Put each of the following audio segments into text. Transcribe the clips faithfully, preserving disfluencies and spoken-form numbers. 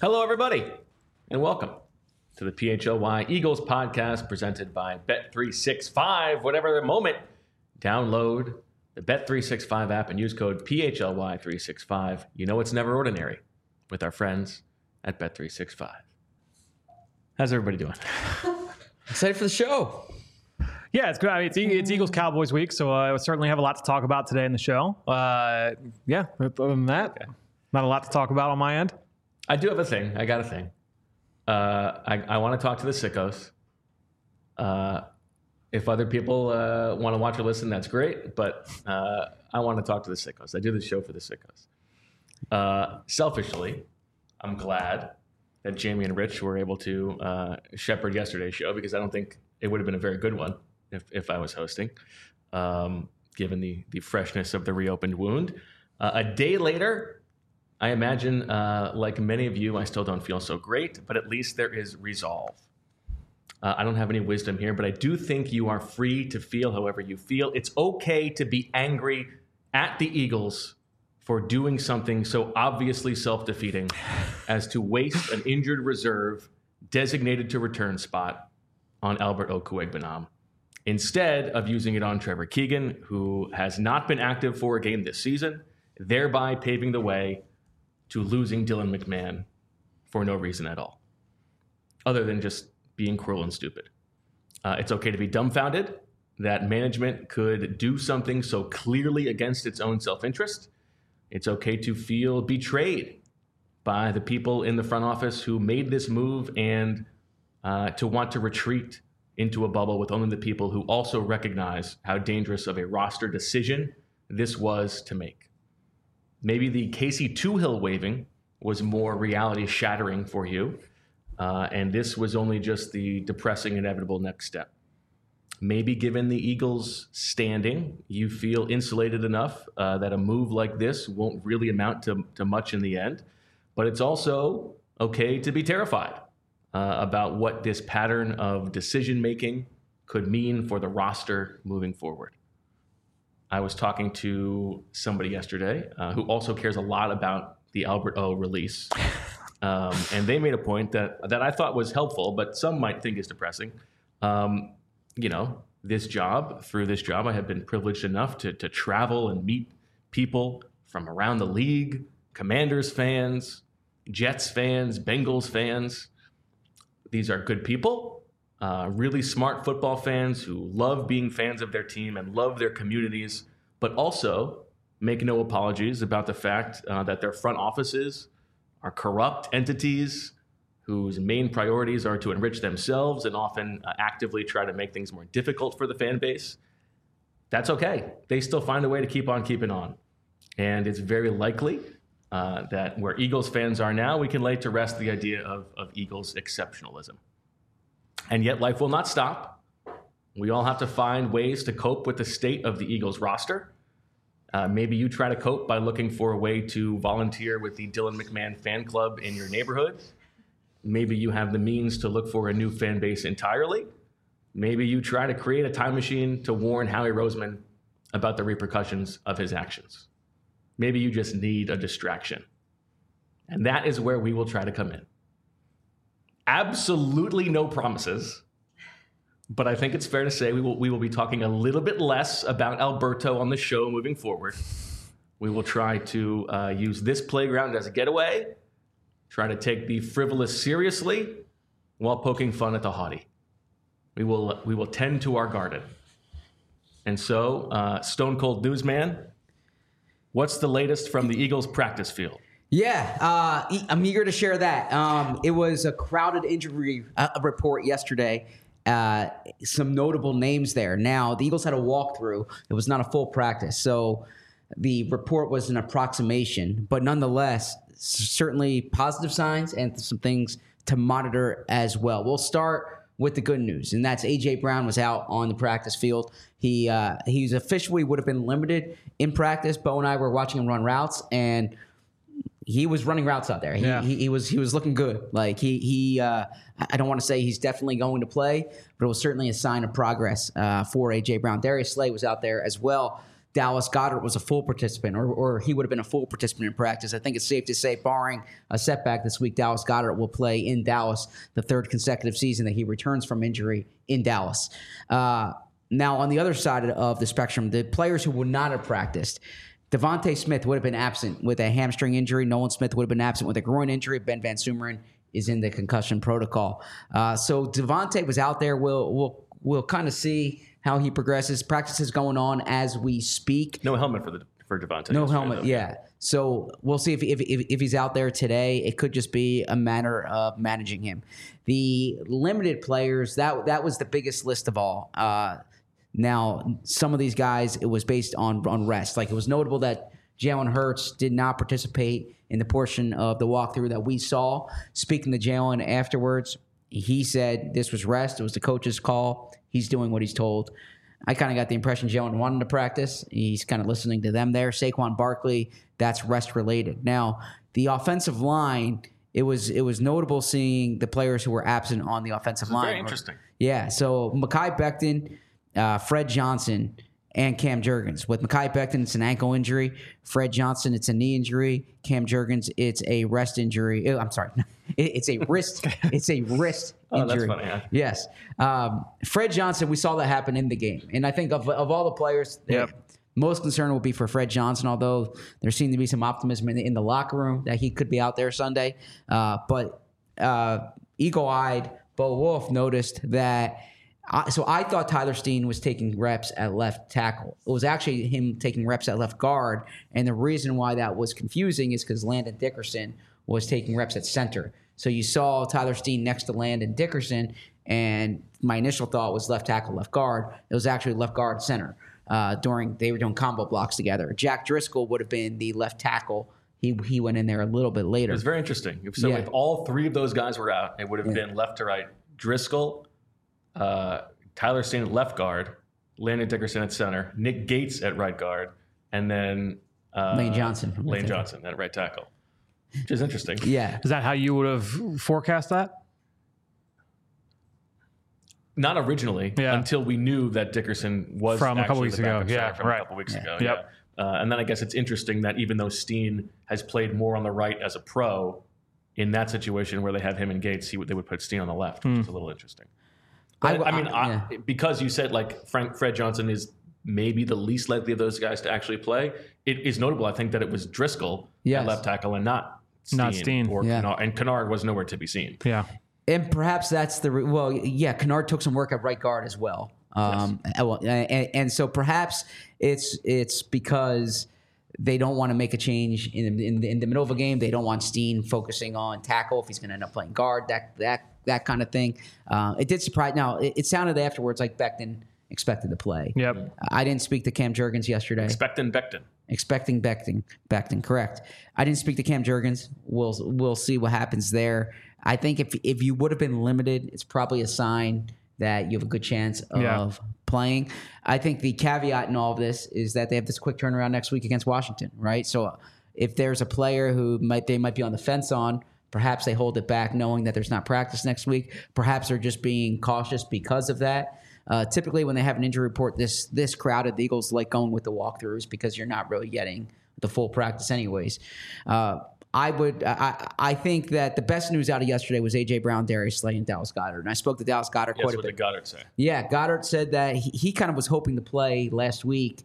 Hello, everybody, and welcome to the P H L Y Eagles podcast presented by Bet three sixty-five. Whatever the moment, download the Bet three sixty-five app and use code P H L Y three sixty-five. You know it's never ordinary with our friends at Bet three sixty-five. How's everybody doing? Excited for the show. Yeah, it's good. I mean, it's, it's Eagles Cowboys week, so uh, we certainly have a lot to talk about today in the show. Uh, yeah, other than that, okay. Not a lot to talk about on my end. I do have a thing. I got a thing. Uh, I, I want to talk to the sickos. Uh, if other people uh, want to watch or listen, that's great. But uh, I want to talk to the sickos. I do the show for the sickos. Uh, selfishly, I'm glad that Jamie and Rich were able to uh, shepherd yesterday's show because I don't think it would have been a very good one if, if I was hosting, um, given the, the freshness of the reopened wound. Uh, a day later, I imagine, uh, like many of you, I still don't feel so great, but at least there is resolve. Uh, I don't have any wisdom here, but I do think you are free to feel however you feel. It's okay to be angry at the Eagles for doing something so obviously self-defeating as to waste an injured reserve designated to return spot on Albert Okwuegbunam, instead of using it on Trevor Keegan, who has not been active for a game this season, thereby paving the way to losing Dylan McMahon for no reason at all, other than just being cruel and stupid. Uh, it's okay to be dumbfounded that management could do something so clearly against its own self-interest. It's okay to feel betrayed by the people in the front office who made this move and uh, to want to retreat into a bubble with only the people who also recognize how dangerous of a roster decision this was to make. Maybe the Casey Toohill waving was more reality shattering for you, uh, and this was only just the depressing inevitable next step. Maybe given the Eagles' standing, you feel insulated enough uh, that a move like this won't really amount to, to much in the end, but it's also okay to be terrified uh, about what this pattern of decision-making could mean for the roster moving forward. I was talking to somebody yesterday uh, who also cares a lot about the Albert O release. Um, and they made a point that, that I thought was helpful, but some might think is depressing. Um, you know, this job, through this job, I have been privileged enough to, to travel and meet people from around the league, Commanders fans, Jets fans, Bengals fans. These are good people. Uh, really smart football fans who love being fans of their team and love their communities, but also make no apologies about the fact uh, that their front offices are corrupt entities whose main priorities are to enrich themselves and often uh, actively try to make things more difficult for the fan base. That's okay. They still find a way to keep on keeping on. And it's very likely uh, that where Eagles fans are now, we can lay to rest the idea of, of Eagles exceptionalism. And yet life will not stop. We all have to find ways to cope with the state of the Eagles roster. Uh, maybe you try to cope by looking for a way to volunteer with the Dylan McMahon fan club in your neighborhood. Maybe you have the means to look for a new fan base entirely. Maybe you try to create a time machine to warn Howie Roseman about the repercussions of his actions. Maybe you just need a distraction. And that is where we will try to come in. Absolutely no promises, but I think it's fair to say we will we will be talking a little bit less about Alberto on the show moving forward. We will try to uh, use this playground as a getaway, try to take the frivolous seriously while poking fun at the haughty. We will we will tend to our garden. And so, uh, Stone Cold Newsman, what's the latest from the Eagles practice field? Yeah, uh, I'm eager to share that. Um, it was a crowded injury uh, report yesterday. Uh, some notable names there. Now, the Eagles had a walkthrough. It was not a full practice. So the report was an approximation, but nonetheless, certainly positive signs and some things to monitor as well. We'll start with the good news, and that's A J. Brown was out on the practice field. He uh, he's officially would have been limited in practice. Bo and I were watching him run routes, and he was running routes out there. He, yeah. he, he was he was looking good. Like he he uh, I don't want to say he's definitely going to play, but it was certainly a sign of progress uh, for A J. Brown. Darius Slay was out there as well. Dallas Goedert was a full participant, or, or he would have been a full participant in practice. I think it's safe to say, barring a setback this week, Dallas Goedert will play in Dallas the third consecutive season that he returns from injury in Dallas. Uh, now, on the other side of the spectrum, the players who would not have practiced, Devontae Smith would have been absent with a hamstring injury. Nolan Smith would have been absent with a groin injury. Ben Van Sumeren is in the concussion protocol. Uh, so Devontae was out there. We'll, we'll, we'll kind of see how he progresses. Practice is going on as we speak. No helmet for the for Devontae. No helmet, though. yeah. So we'll see if, if if if he's out there today. It could just be a matter of managing him. The limited players, that that was the biggest list of all. Uh, now, some of these guys, it was based on on rest. Like, it was notable that Jalen Hurts did not participate in the portion of the walkthrough that we saw. Speaking to Jalen afterwards, he said this was rest. It was the coach's call. He's doing what he's told. I kind of got the impression Jalen wanted to practice. He's kind of listening to them there. Saquon Barkley, that's rest related. Now, the offensive line, it was it was notable seeing the players who were absent on the offensive line. Very interesting. Yeah, so Mekhi Becton, uh, Fred Johnson, and Cam Jurgens. With Mekhi Becton, it's an ankle injury. Fred Johnson, it's a knee injury. Cam Jurgens, it's a rest injury. Oh, I'm sorry. It's a wrist. It's a wrist injury. Oh, that's funny, huh? Yes. Um, Fred Johnson, we saw that happen in the game. And I think of, of all the players, Yep. most concern will be for Fred Johnson, although there seemed to be some optimism in the, in the locker room that he could be out there Sunday. Uh, but uh, eagle-eyed Bo Wolf noticed that I, so I thought Tyler Steen was taking reps at left tackle. It was actually him taking reps at left guard, and the reason why that was confusing is because Landon Dickerson was taking reps at center. So you saw Tyler Steen next to Landon Dickerson, and my initial thought was left tackle, left guard. It was actually left guard, center. Uh, during they were doing combo blocks together. Jack Driscoll would have been the left tackle. He he went in there a little bit later. It was very interesting. So Yeah. if all three of those guys were out, it would have Yeah. been left to right. Driscoll, uh, Tyler Steen at left guard, Landon Dickerson at center, Nick Gates at right guard, and then uh, Lane Johnson from Lane left tackle. Johnson at right tackle, which is interesting. Yeah. Is that how you would have forecast that? Not originally, Yeah. until we knew that Dickerson was From a couple actually weeks the ago. backup Yeah, center from right. a couple weeks Yeah. ago. Yep. Yeah. Uh, and then I guess it's interesting that even though Steen has played more on the right as a pro, in that situation where they have him and Gates, he would, they would put Steen on the left, which is a little interesting. But, I- I, mean, I- I, because you said like Frank Fred Johnson is maybe the least likely of those guys to actually play, it is notable, I think, that it was Driscoll Yes. at left tackle and not Steen. Not Steen. Or Yeah. Kennard, and Kennard was nowhere to be seen. Yeah. And perhaps that's the re- well, yeah. Kennard took some work at right guard as well, um, and, well, and, and so perhaps it's it's because they don't want to make a change in, in in the middle of a game. They don't want Steen focusing on tackle if he's going to end up playing guard. That that that kind of thing. Uh, it did surprise. Now it, it sounded afterwards like Becton expected to play. Yep. I didn't speak to Cam Jurgens yesterday. Expecting Becton. Expecting Becton, Becton, correct. I didn't speak to Cam Jurgens. We'll we'll see what happens there. I think if if you would have been limited, it's probably a sign that you have a good chance of Yeah. playing. I think the caveat in all of this is that they have this quick turnaround next week against Washington, right? So if there's a player who might they might be on the fence on, perhaps they hold it back knowing that there's not practice next week. Perhaps they're just being cautious because of that. Uh, typically, when they have an injury report this this crowded, the Eagles like going with the walkthroughs because you're not really getting the full practice anyways. Uh, I would I, I think that the best news out of yesterday was A J Brown, Darius Slay, and Dallas Goedert. And I spoke to Dallas Goedert Yes, quite a what bit. did Goddard say? Yeah, Goddard said that he, he kind of was hoping to play last week.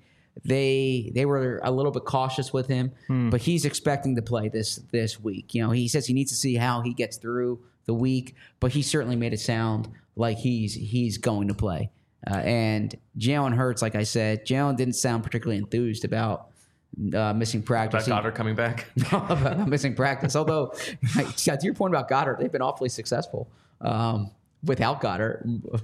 They they were a little bit cautious with him, but he's expecting to play this this week. You know, he says he needs to see how he gets through the week, but he certainly made it sound like he's he's going to play. Uh, and Jalen Hurts, like I said, Jalen didn't sound particularly enthused about uh, missing practice. About He- Goddard coming back? about missing practice. Although, to your point about Goddard, they've been awfully successful um, without Goddard.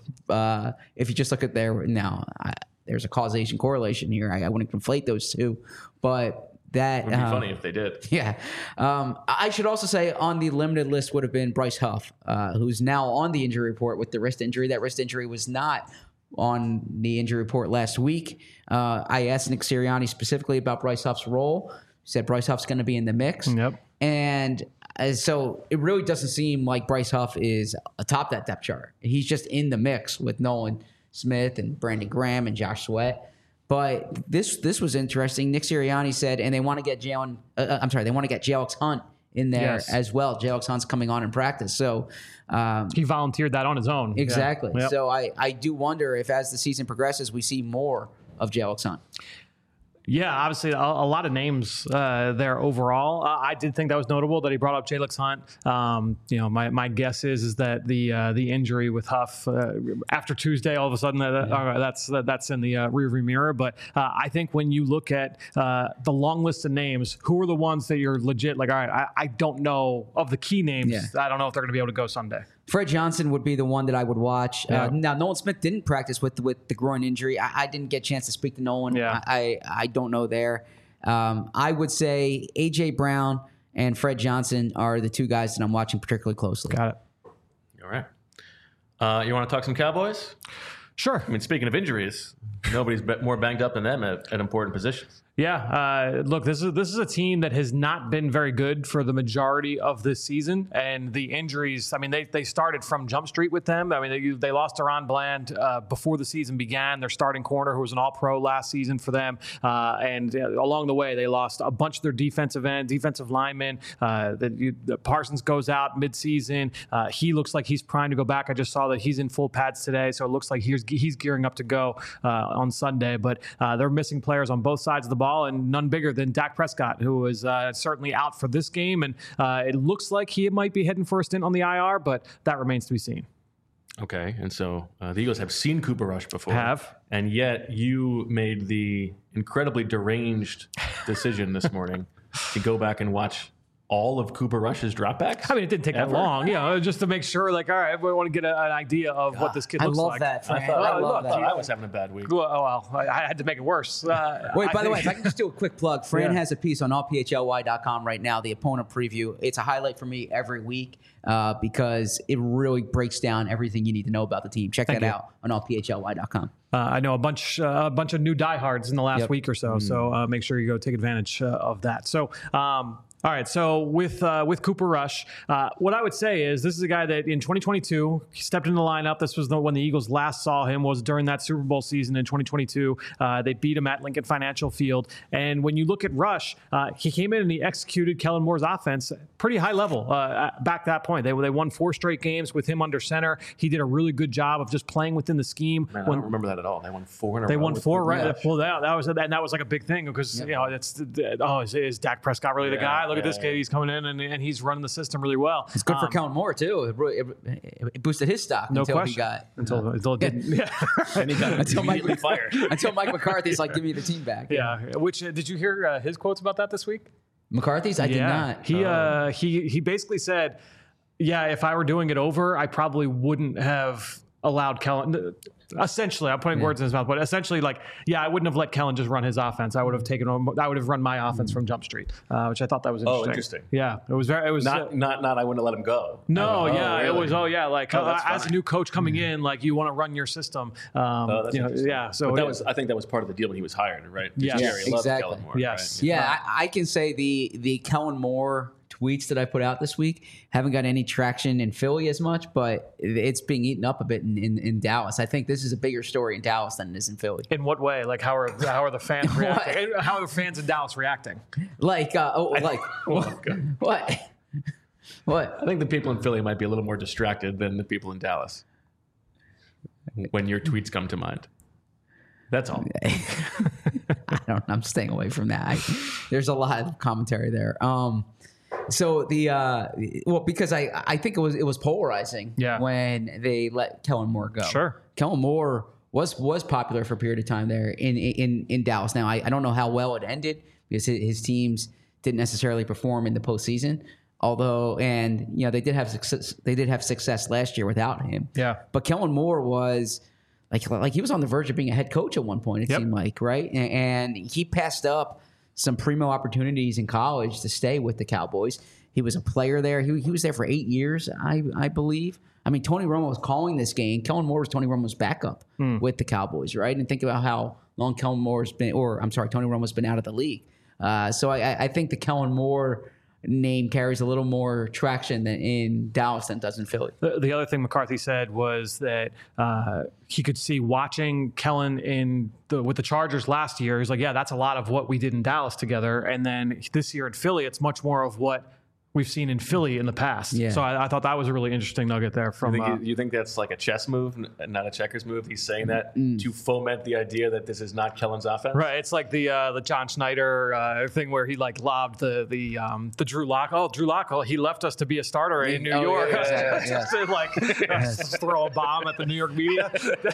Uh, if you just look at their now, I, there's a causation correlation here. I, I wouldn't conflate those two, but that It would be um, funny if they did. yeah. Um, I should also say on the limited list would have been Bryce Huff, uh, who's now on the injury report with the wrist injury. That wrist injury was not on the injury report last week. Uh, I asked Nick Sirianni specifically about Bryce Huff's role. He said Bryce Huff's going to be in the mix. Yep. And uh, so it really doesn't seem like Bryce Huff is atop that depth chart. He's just in the mix with Nolan Smith and Brandon Graham and Josh Sweat. But this this was interesting. Nick Sirianni said, and they want to get Jalen. Uh, I'm sorry, they want to get Jalen Hunt in there Yes. as well. Jalen Hunt's coming on in practice, so um, He volunteered that on his own. exactly. Yeah. Yep. So I I do wonder if as the season progresses, we see more of Jalen Hunt. Yeah, obviously a, a lot of names uh, there overall. Uh, I did think that was notable that he brought up Jalen Hunt. Um, you know, my, my guess is is that the uh, the injury with Huff uh, after Tuesday, all of a sudden that, yeah. uh, that's uh, that's in the uh, rearview mirror. But uh, I think when you look at uh, the long list of names, who are the ones that you're legit like? All right, I, I don't know of the key names. Yeah. I don't know if they're going to be able to go Sunday. Fred Johnson would be the one that I would watch. Yeah. Uh, now, Nolan Smith didn't practice with with the groin injury. I, I didn't get a chance to speak to Nolan. Yeah. I, I I don't know there. Um, I would say A J Brown and Fred Johnson are the two guys that I'm watching particularly closely. Got it. All right. Uh, you want to talk some Cowboys? Sure. I mean, speaking of injuries, nobody's be- more banged up than them at, at important positions. Yeah, uh, look, this is this is a team that has not been very good for the majority of this season, and the injuries. I mean, they they started from Jump Street with them. I mean, they they lost Deron Bland uh, before the season began. Their starting corner, who was an All-Pro last season for them, uh, and uh, along the way, they lost a bunch of their defensive end, defensive linemen. Uh, that you, the Parsons goes out mid-season. Uh, he looks like he's primed to go back. I just saw that he's in full pads today, so it looks like he's he's gearing up to go uh, on Sunday. But uh, they're missing players on both sides of the ball. Ball, and none bigger than Dak Prescott, who was uh, certainly out for this game. And uh, it looks like he might be heading for a stint on the I R, but that remains to be seen. Okay, and so uh, the Eagles have seen Cooper Rush before. Have. And yet you made the incredibly deranged decision this morning to go back and watch all of Cooper Rush's dropbacks? I mean, it didn't take Ever? that long, you know, just to make sure, like, all right, we want to get a, an idea of what this kid I looks love like. that, Fran. I thought, I I, love look, that. thought I was having a bad week. Well, oh, well, I, I had to make it worse. Uh, Wait, I by the way, think- if I can just do a quick plug, Fran Yeah. has a piece on all P H L Y dot com right now, the opponent preview. It's a highlight for me every week uh, because it really breaks down everything you need to know about the team. Check Thank that you. out on all P H L Y dot com. Uh, I know a bunch, uh, a bunch of new diehards in the last Yep. week or so, so uh, make sure you go take advantage uh, of that. So, um, all right. So with uh, with Cooper Rush, uh, what I would say is this is a guy that in twenty twenty-two he stepped in the lineup. This was the, when the Eagles last saw him was during that Super Bowl season in twenty twenty-two. Uh, they beat him at Lincoln Financial Field. And when you look at Rush, uh, he came in and he executed Kellen Moore's offense pretty high level uh, back to that point. They they won four straight games with him under center. He did a really good job of just playing within the scheme. Man, I When- don't remember that at all. They won four in a they row. won with four, Cooper right? Rush. Well, that, that was and that was like a big thing because you know it's oh is, is Dak Prescott really the Yeah, guy? Look at this yeah, kid, yeah. he's coming in and, and he's running the system really well. It's good for Um, Kellen Moore, too. It, really- it, it boosted his stock no until question. he got until, until it didn't. Yeah, And he got Until Mike- immediately fired. until Mike McCarthy's like, give me the team back. yeah. Which uh, did you hear uh, his quotes about that this week? McCarthy's? I did not. He uh, he he basically said, "Yeah, if I were doing it over, I probably wouldn't have allowed Kellen." Essentially, I'm putting words in his mouth, but essentially, like, yeah, I wouldn't have let Kellen just run his offense. I would have taken, I would have run my offense from Jump Street, uh, which I thought that was interesting. Oh, interesting. Yeah, it was very. It was uh, Not, not, not. I wouldn't have let him go. No, Oh, yeah, it really? was. Oh, yeah, like Oh, uh, that's as a funny. new coach coming in, like you want to run your system. Um, Oh, that's you know, interesting. yeah. So but that it- was. I think that was part of the deal when he was hired, right? Yes. Jerry Yes, loved exactly. Kellen Moore, Yes. right? Yeah, I, I can say the the Kellen Moore tweets that I put out this week haven't got any traction in Philly as much, but it's being eaten up a bit in, in, in Dallas. I think this is a bigger story in Dallas than it is in Philly. in what way? Like how are how are the fans reacting? How are the fans in Dallas reacting? Like, uh, oh, like Oh, God. what? What? I think the people in Philly might be a little more distracted than the people in Dallas when your tweets come to mind. That's all. I don't. I'm staying away from that. I, there's a lot of commentary there. Um, so the uh, well, because I I think it was it was polarizing. Yeah. When they let Kellen Moore go. Sure. Kellen Moore was was popular for a period of time there in in in Dallas. Now I, I don't know how well it ended because his, his teams didn't necessarily perform in the postseason. Although, and you know, they did have success. They did have success last year without him. Yeah. But Kellen Moore was like, like he was on the verge of being a head coach at one point. It Yep. seemed like, right? And, and he passed up some primo opportunities in college to stay with the Cowboys. He was a player there. He, he was there for eight years, I I believe. I mean, Tony Romo was calling this game. Kellen Moore was Tony Romo's backup with the Cowboys, right? And think about how long Kellen Moore's been, or I'm sorry, Tony Romo's been out of the league. Uh, so I, I think the Kellen Moore name carries a little more traction than in Dallas than does in Philly. The, the other thing McCarthy said was that uh, he could see watching Kellen in the, with the Chargers last year. He's like, yeah, that's a lot of what we did in Dallas together. And then this year in Philly, it's much more of what we've seen in Philly in the past. Yeah. So I, I thought that was a really interesting nugget there from. You think, uh, you think that's like a chess move, not a checkers move? He's saying that Mm. to foment the idea that this is not Kellen's offense? Right, it's like the uh, the John Schneider uh, thing where he like lobbed the the um, the Drew Lock. Oh, Drew Lock, oh, he left us to be a starter in New Oh, York. yeah, yeah, yeah. Just to, like just throw a bomb at the New York media.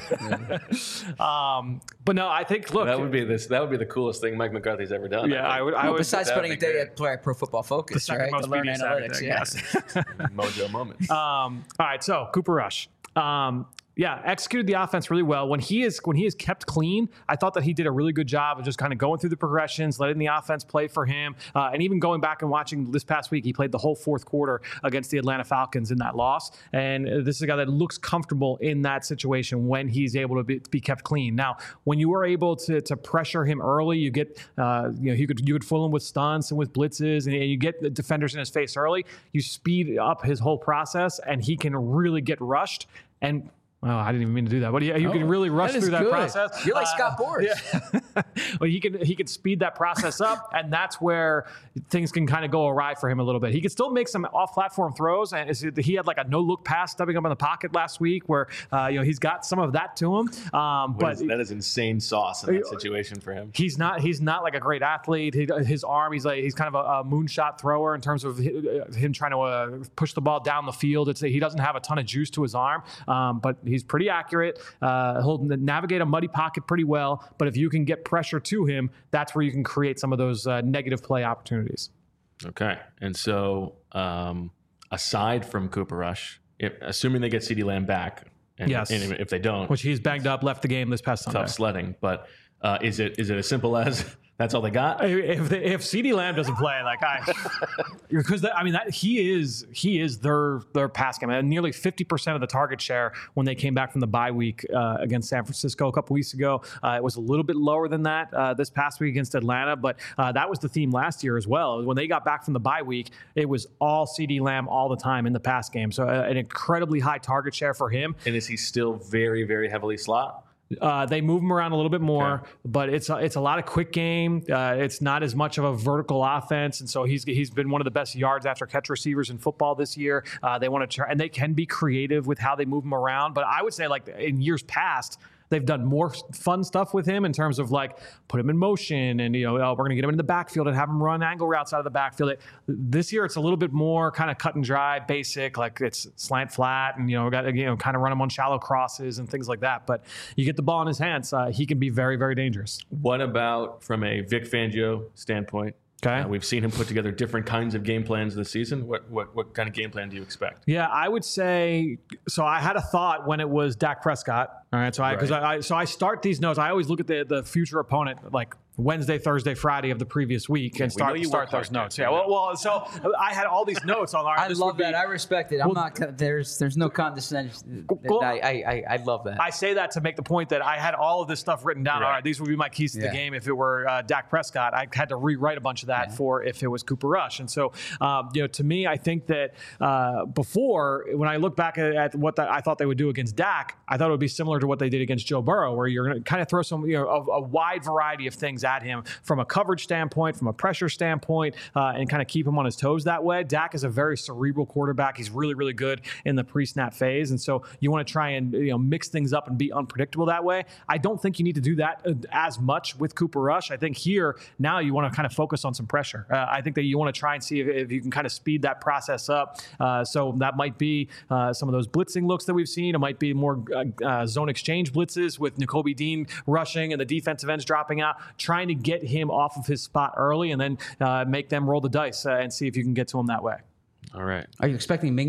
um, but no, I think look, That would be this. That would be the coolest thing Mike McCarthy's ever done. yeah, I would. I Well, would besides that would spending a be day great. at Pro Pro Football Focus, the second right? most To learn media savvy analytics. thing, Yeah. yes. Mojo moment. Um, all right, so Cooper Rush. Um, yeah, executed the offense really well. When he is when he is kept clean, I thought that he did a really good job of just kind of going through the progressions, letting the offense play for him, uh, and even going back and watching this past week, he played the whole fourth quarter against the Atlanta Falcons in that loss. And this is a guy that looks comfortable in that situation when he's able to be, be kept clean. Now, when you are able to to pressure him early, you get uh, you know you could you could fool him with stunts and with blitzes, and you get the defenders in his face early. You speed up his whole process, and he can really get rushed. And oh, I didn't even mean to do that. But you, you Oh, can really rush that is through that good. process. You're like Uh, Scott Boras. Yeah. Well, he can he can speed that process up, and that's where things can kind of go awry for him a little bit. He can still make some off-platform throws, and he had like a no-look pass stepping up in the pocket last week, where uh, you know he's got some of that to him. Um, What but is- that is insane sauce in that situation for him. he's not he's not like a great athlete. He, his arm, he's like he's kind of a, a moonshot thrower in terms of hi- him trying to uh, push the ball down the field. It's he doesn't have a ton of juice to his arm, um, but he's pretty accurate. Uh, he'll navigate a muddy pocket pretty well. But if you can get pressure to him, that's where you can create some of those uh, negative play opportunities. Okay, and so um, aside from Cooper Rush, if, assuming they get CeeDee Lamb back, and, Yes. and if they don't, Which he's banged up, left the game this past Sunday. tough sledding. But uh, is it is it as simple as that's all they got? If the, if CeeDee Lamb doesn't play, like I, because that, I mean that he is he is their their pass game. And nearly fifty percent of the target share when they came back from the bye week uh, against San Francisco a couple weeks ago. Uh, it was a little bit lower than that uh, this past week against Atlanta, but uh, that was the theme last year as well. When they got back from the bye week, it was all CeeDee Lamb all the time in the pass game. So uh, an incredibly high target share for him. And is he still very very heavily slot? Uh, they move him around a little bit more, Okay. but it's a, it's a lot of quick game. Uh, it's not as much of a vertical offense, and so he's he's been one of the best yards after catch receivers in football this year. Uh, they want to try, and they can be creative with how they move him around. But I would say, like in years past, they've done more fun stuff with him in terms of like put him in motion, and you know oh, we're going to get him in the backfield and have him run angle routes out of the backfield. This year, it's a little bit more kind of cut and dry, basic, like it's slant flat, and you know got you know kind of run him on shallow crosses and things like that. But you get the ball in his hands, uh, he can be very very dangerous. What about from a Vic Fangio standpoint? Okay. Uh, we've seen him put together different kinds of game plans this season. What what what kind of game plan do you expect? Yeah, I would say. So I had a thought when it was Dak Prescott. All right, so I because Right. I, I so I start these notes. I always look at the the future opponent like Wednesday, Thursday, Friday of the previous week and we know start you start work hard, those notes. Jack. Yeah, well, well, so I had all these notes on. Our, I this love would be- that. I respect it. I'm Well- not. con- There's there's no condescension. Well- I, I I I love that. I say that to make the point that I had all of this stuff written down. Right. All right, these would be my keys to Yeah. the game if it were uh, Dak Prescott. I had to rewrite a bunch of that for if it was Cooper Rush. And so, um, you know, to me, I think that uh, before, when I look back at, at what the, I thought they would do against Dak, I thought it would be similar to what they did against Joe Burrow, where you're going to kind of throw some, you know, a, a wide variety of things at him from a coverage standpoint, from a pressure standpoint, uh, and kind of keep him on his toes that way. Dak is a very cerebral quarterback. He's really, really good in the pre-snap phase. And so you want to try and, you know, mix things up and be unpredictable that way. I don't think you need to do that uh, as much with Cooper Rush. I think here, now you want to kind of focus on some pressure. Uh, I think that you want to try and see if, if you can kind of speed that process up. Uh, so that might be uh, some of those blitzing looks that we've seen. It might be more uh, uh, zone exchange blitzes with Nakobe Dean rushing and the defensive ends dropping out, trying to get him off of his spot early and then uh, make them roll the dice uh, and see if you can get to him that way. All right. Are you expecting Mingo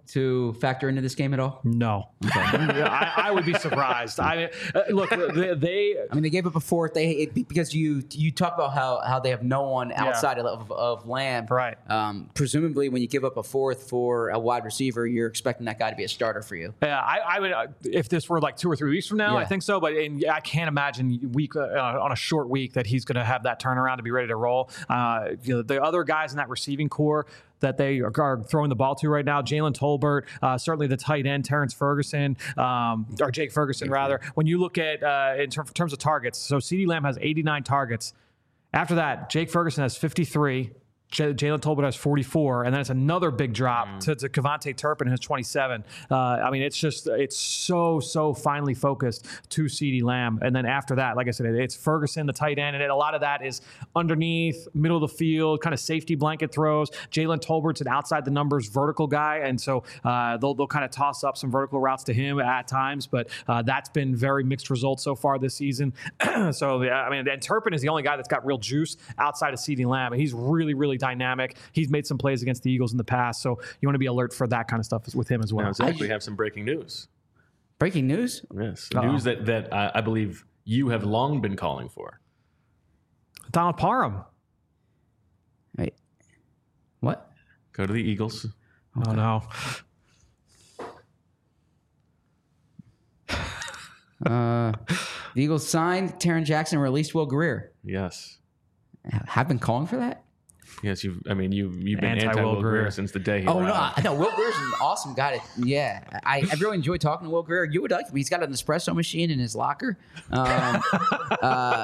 to factor into this game at all? No, I, I would be surprised. I mean, uh, look, they, they. I mean, they gave up a fourth. They it, because you you talk about how, how they have no one outside yeah. of, of Lamb. Right. Um, presumably, when you give up a fourth for a wide receiver, you're expecting that guy to be a starter for you. Yeah, I, I would. Uh, if this were like two or three weeks from now, yeah. I think so. But in, I can't imagine week uh, on a short week that he's going to have that turnaround to be ready to roll. Uh, you know, the other guys in that receiving core that they are throwing the ball to right now, Jalen Tolbert, uh, certainly the tight end, Terrence Ferguson, um, or Jake Ferguson, rather. When you look at, uh, in ter- terms of targets, so CeeDee Lamb has eighty-nine targets. After that, Jake Ferguson has fifty-three. J- Jalen Tolbert has forty-four, and then it's another big drop mm. to, to Kevontae Turpin, who has twenty-seven. Uh, I mean, it's just, it's so, so finely focused to CeeDee Lamb. And then after that, like I said, it's Ferguson, the tight end, and it, a lot of that is underneath, middle of the field, kind of safety blanket throws. Jalen Tolbert's an outside the numbers vertical guy, and so uh, they'll, they'll kind of toss up some vertical routes to him at times, but uh, that's been very mixed results so far this season. So, yeah, I mean, and Turpin is the only guy that's got real juice outside of CeeDee Lamb, and he's really, really dynamic. He's made some plays against the Eagles in the past, so you want to be alert for that kind of stuff with him as well. Now, Zach, we have some breaking news. Breaking news? Yes, Uh-oh. news that that uh, I believe you have long been calling for. Donald Parham. Wait, what? Go to the Eagles. Oh no. uh, the Eagles signed Taron Jackson, released Will Grier. Yes. Have been calling for that? Yes, you've. I mean, you you've been anti Will Grier. Grier since the day he. Oh arrived. no, I, no, Will Grier's an awesome guy. To, yeah, I, I really enjoy talking to Will Grier. You would like him. He's got an espresso machine in his locker. Um, uh,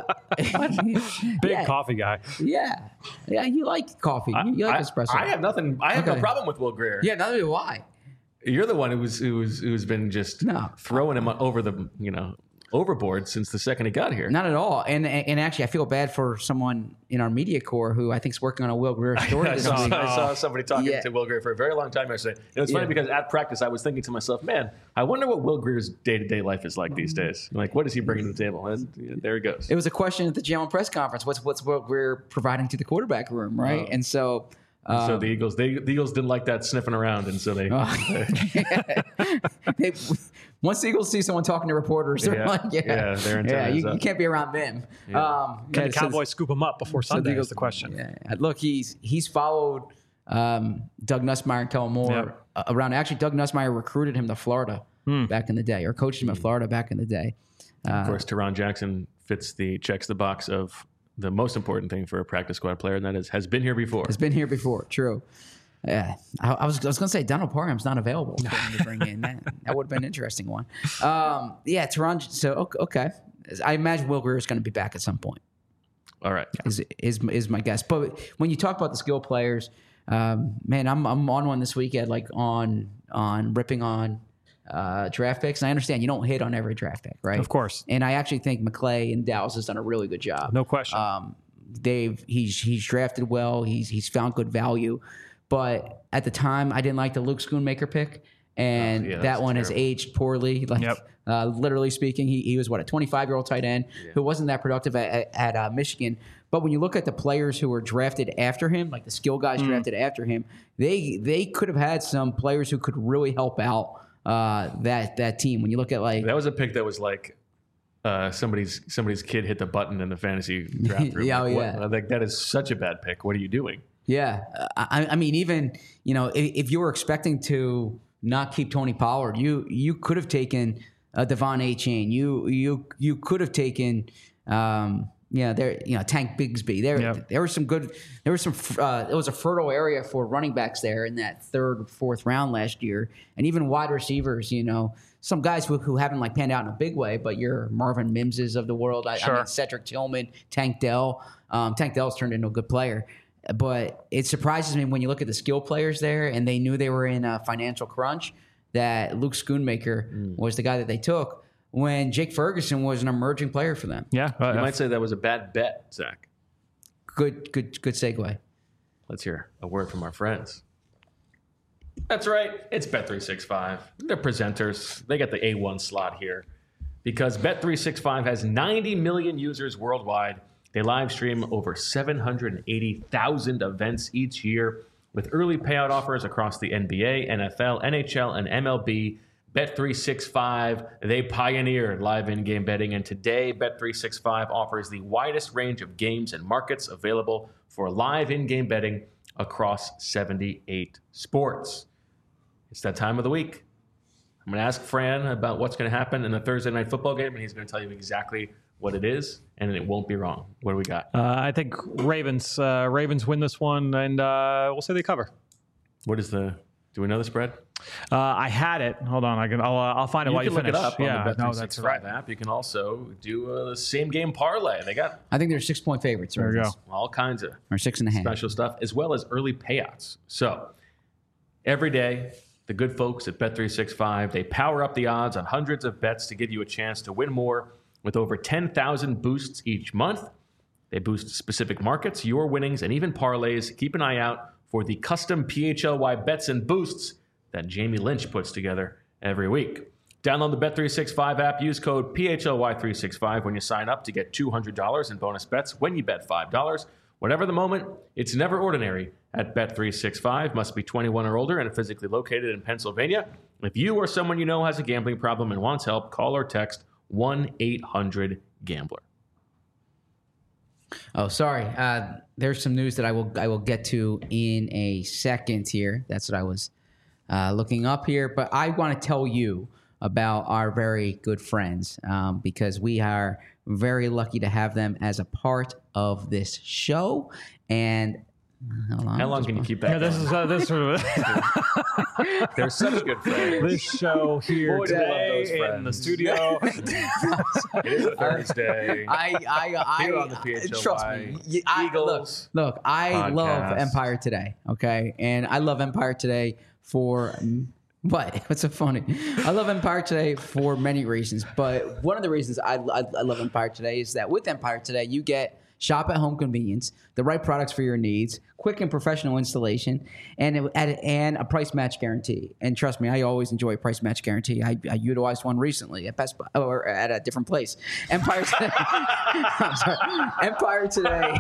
Big yeah, coffee guy. Yeah, yeah. You like coffee. You, you like I, espresso. I have nothing. I have okay. no problem with Will Grier. Yeah, neither do I. You're the one who's who's who's been just no. throwing him over the you know. overboard since the second he got here. Not at all. And and actually, I feel bad for someone in our media corps who I think is working on a Will Grier story. I, this saw, week. I saw somebody talking yeah. to Will Grier for a very long time yesterday. And it's funny yeah. because at practice, I was thinking to myself, man, I wonder what Will Grier's day-to-day life is like these days. Like, what is he bringing to the table? And yeah, there he goes. It was a question at the G M press conference. What's what's Will Grier providing to the quarterback room, right? Uh, and so... Um, so the Eagles, they, the Eagles didn't like that sniffing around, and so they. Uh, they once the Eagles see someone talking to reporters, they're yeah, like, "Yeah, yeah, they're yeah you, you can't be around them." Yeah. Um, Can yeah, the Cowboys so, scoop them up before Sunday? So is the question. Yeah. Look, he's he's followed um, Doug Nussmeier and Kellen Moore yep. uh, around. Actually, Doug Nussmeier recruited him to Florida hmm. back in the day, or coached him at Florida back in the day. Uh, of course, Taron Jackson fits the checks the box of the most important thing for a practice squad player, and that is has been here before. Has been here before. True. Yeah, I, I was I was going to say Donald Parham's not available for him to bring in. That, that would have been an interesting one. Um, yeah, Taron. So okay, I imagine Will Grier is going to be back at some point. All right, is is is my guess. But when you talk about the skill players, um, man, I'm I'm on one this weekend, like on on ripping on. Uh, draft picks. And I understand you don't hit on every draft pick, right? Of course. And I actually think McClay in Dallas has done a really good job. No question. Um, they've he's he's drafted well. He's he's found good value. But at the time, I didn't like the Luke Schoonmaker pick, and oh, yeah, that one terrible. has aged poorly. Like, yep. uh, literally speaking, he he was what a twenty-five year old tight end yeah. who wasn't that productive at, at, at uh, Michigan. But when you look at the players who were drafted after him, like the skill guys mm. drafted after him, they they could have had some players who could really help out. Uh, that that team. When you look at like that was a pick that was like uh, somebody's somebody's kid hit the button in the fantasy draft room. yeah, like, oh, yeah. What? Like that is such a bad pick. What are you doing? Yeah, I, I mean, even you know, if, if you were expecting to not keep Tony Pollard, you you could have taken uh, Devon Achane. You you you could have taken. Um, Yeah, there. You know, Tank Bigsby. There, yep. there was some good. There was some. Uh, it was a fertile area for running backs there in that third, fourth round last year, and even wide receivers. You know, some guys who, who haven't like panned out in a big way, but your Marvin Mimses of the world. I, sure. I mean, Cedric Tillman, Tank Dell. Um, Tank Dell's turned into a good player, but it surprises me when you look at the skill players there, and they knew they were in a financial crunch. That Luke Schoonmaker mm. was the guy that they took. When Jake Ferguson was an emerging player for them. Yeah. Uh, you might say that was a bad bet, Zach. Good, good, good segue. Let's hear a word from our friends. That's right. It's Bet three sixty-five. They're presenters. They get the A one slot here because Bet three sixty-five has ninety million users worldwide. They live stream over seven hundred eighty thousand events each year. With early payout offers across the N B A, N F L, N H L, and M L B, Bet three sixty-five, they pioneered live in-game betting, and today Bet three sixty-five offers the widest range of games and markets available for live in-game betting across seventy-eight sports. It's that time of the week. I'm going to ask Fran about what's going to happen in the Thursday night football game, and he's going to tell you exactly what it is, and it won't be wrong. What do we got? Uh, I think Ravens. Uh, Ravens win this one, and uh, we'll say they cover. What is the? Do we know the spread? Uh, I had it. Hold on, I can. I'll, uh, I'll find it You while can you look finish. it up yeah, on the Bet no, three that's sixty-five right. app. You can also do a same game parlay. They got I think they're six point favorites. There we go. all kinds of Or six and a half. special stuff, as well as early payouts. So every day, the good folks at Bet three sixty-five, they power up the odds on hundreds of bets to give you a chance to win more with over ten thousand boosts each month. They boost specific markets, your winnings, and even parlays. Keep an eye out for the custom P H L Y bets and boosts that Jamie Lynch puts together every week. Download the Bet three sixty-five app. Use code P H L Y three sixty-five when you sign up to get two hundred dollars in bonus bets when you bet five dollars. Whatever the moment, it's never ordinary at Bet three sixty-five. Must be twenty-one or older and physically located in Pennsylvania. If you or someone you know has a gambling problem and wants help, call or text one eight hundred gambler. Oh, sorry. Uh, there's some news that I will I will get to in a second here. That's what I was uh, looking up here. But I want to tell you about our very good friends um, because we are very lucky to have them as a part of this show. And hold on, How long can you keep that Yeah, this going? is uh, this sort of They're such good friends. this show here Boy, do we love those today in the friends. studio. It is a Thursday. I, I, I, Here on the P H L Y trust me. y- I, Eagles look, look, I love podcast. Empire Today. Okay, and I love Empire Today for mm, what? What's so funny? I love Empire Today for many reasons, but one of the reasons I, I, I love Empire Today is that with Empire Today, you get shop at home convenience, the right products for your needs, quick and professional installation, and it, and and a price match guarantee. And trust me, I always enjoy a price match guarantee. I, I utilized one recently at Best Buy or at a different place. Empire Today. I'm sorry. Empire Today.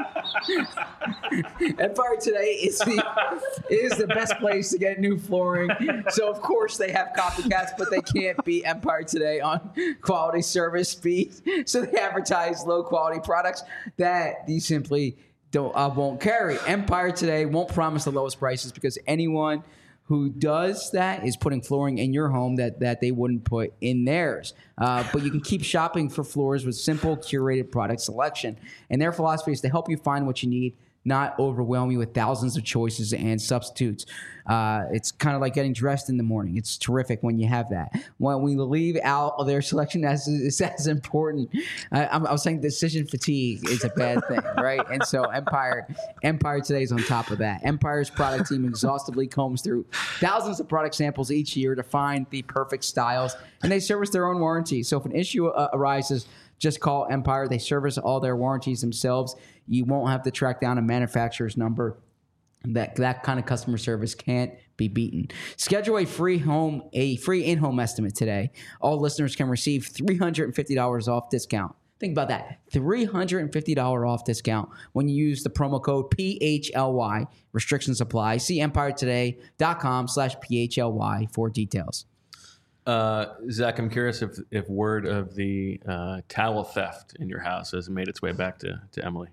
Empire Today is the is the best place to get new flooring. So of course they have copycats, but they can't beat Empire Today on quality, service, speed. So they advertise low quality products that you simply don't uh, won't carry. Empire Today won't promise the lowest prices because anyone who does that is putting flooring in your home that, that they wouldn't put in theirs. Uh, but you can keep shopping for floors with simple, curated product selection. And their philosophy is to help you find what you need, not overwhelm you with thousands of choices and substitutes. Uh, it's kind of like getting dressed in the morning. It's terrific when you have that. When we leave out of their selection, as is as important. I, I'm, I was saying decision fatigue is a bad thing, right? And so Empire, Empire Today is on top of that. Empire's product team exhaustively combs through thousands of product samples each year to find the perfect styles, and they service their own warranty. So if an issue uh, arises, just call Empire. They service all their warranties themselves. You won't have to track down a manufacturer's number. That that kind of customer service can't be beaten. Schedule a free home, a free in-home estimate today. All listeners can receive three hundred fifty dollars off discount. Think about that. three hundred fifty dollars off discount when you use the promo code P H L Y. Restrictions apply. See empire today dot com slash P H L Y for details. Uh, Zach, I'm curious if if word of the uh, towel theft in your house has made its way back to, to Emily.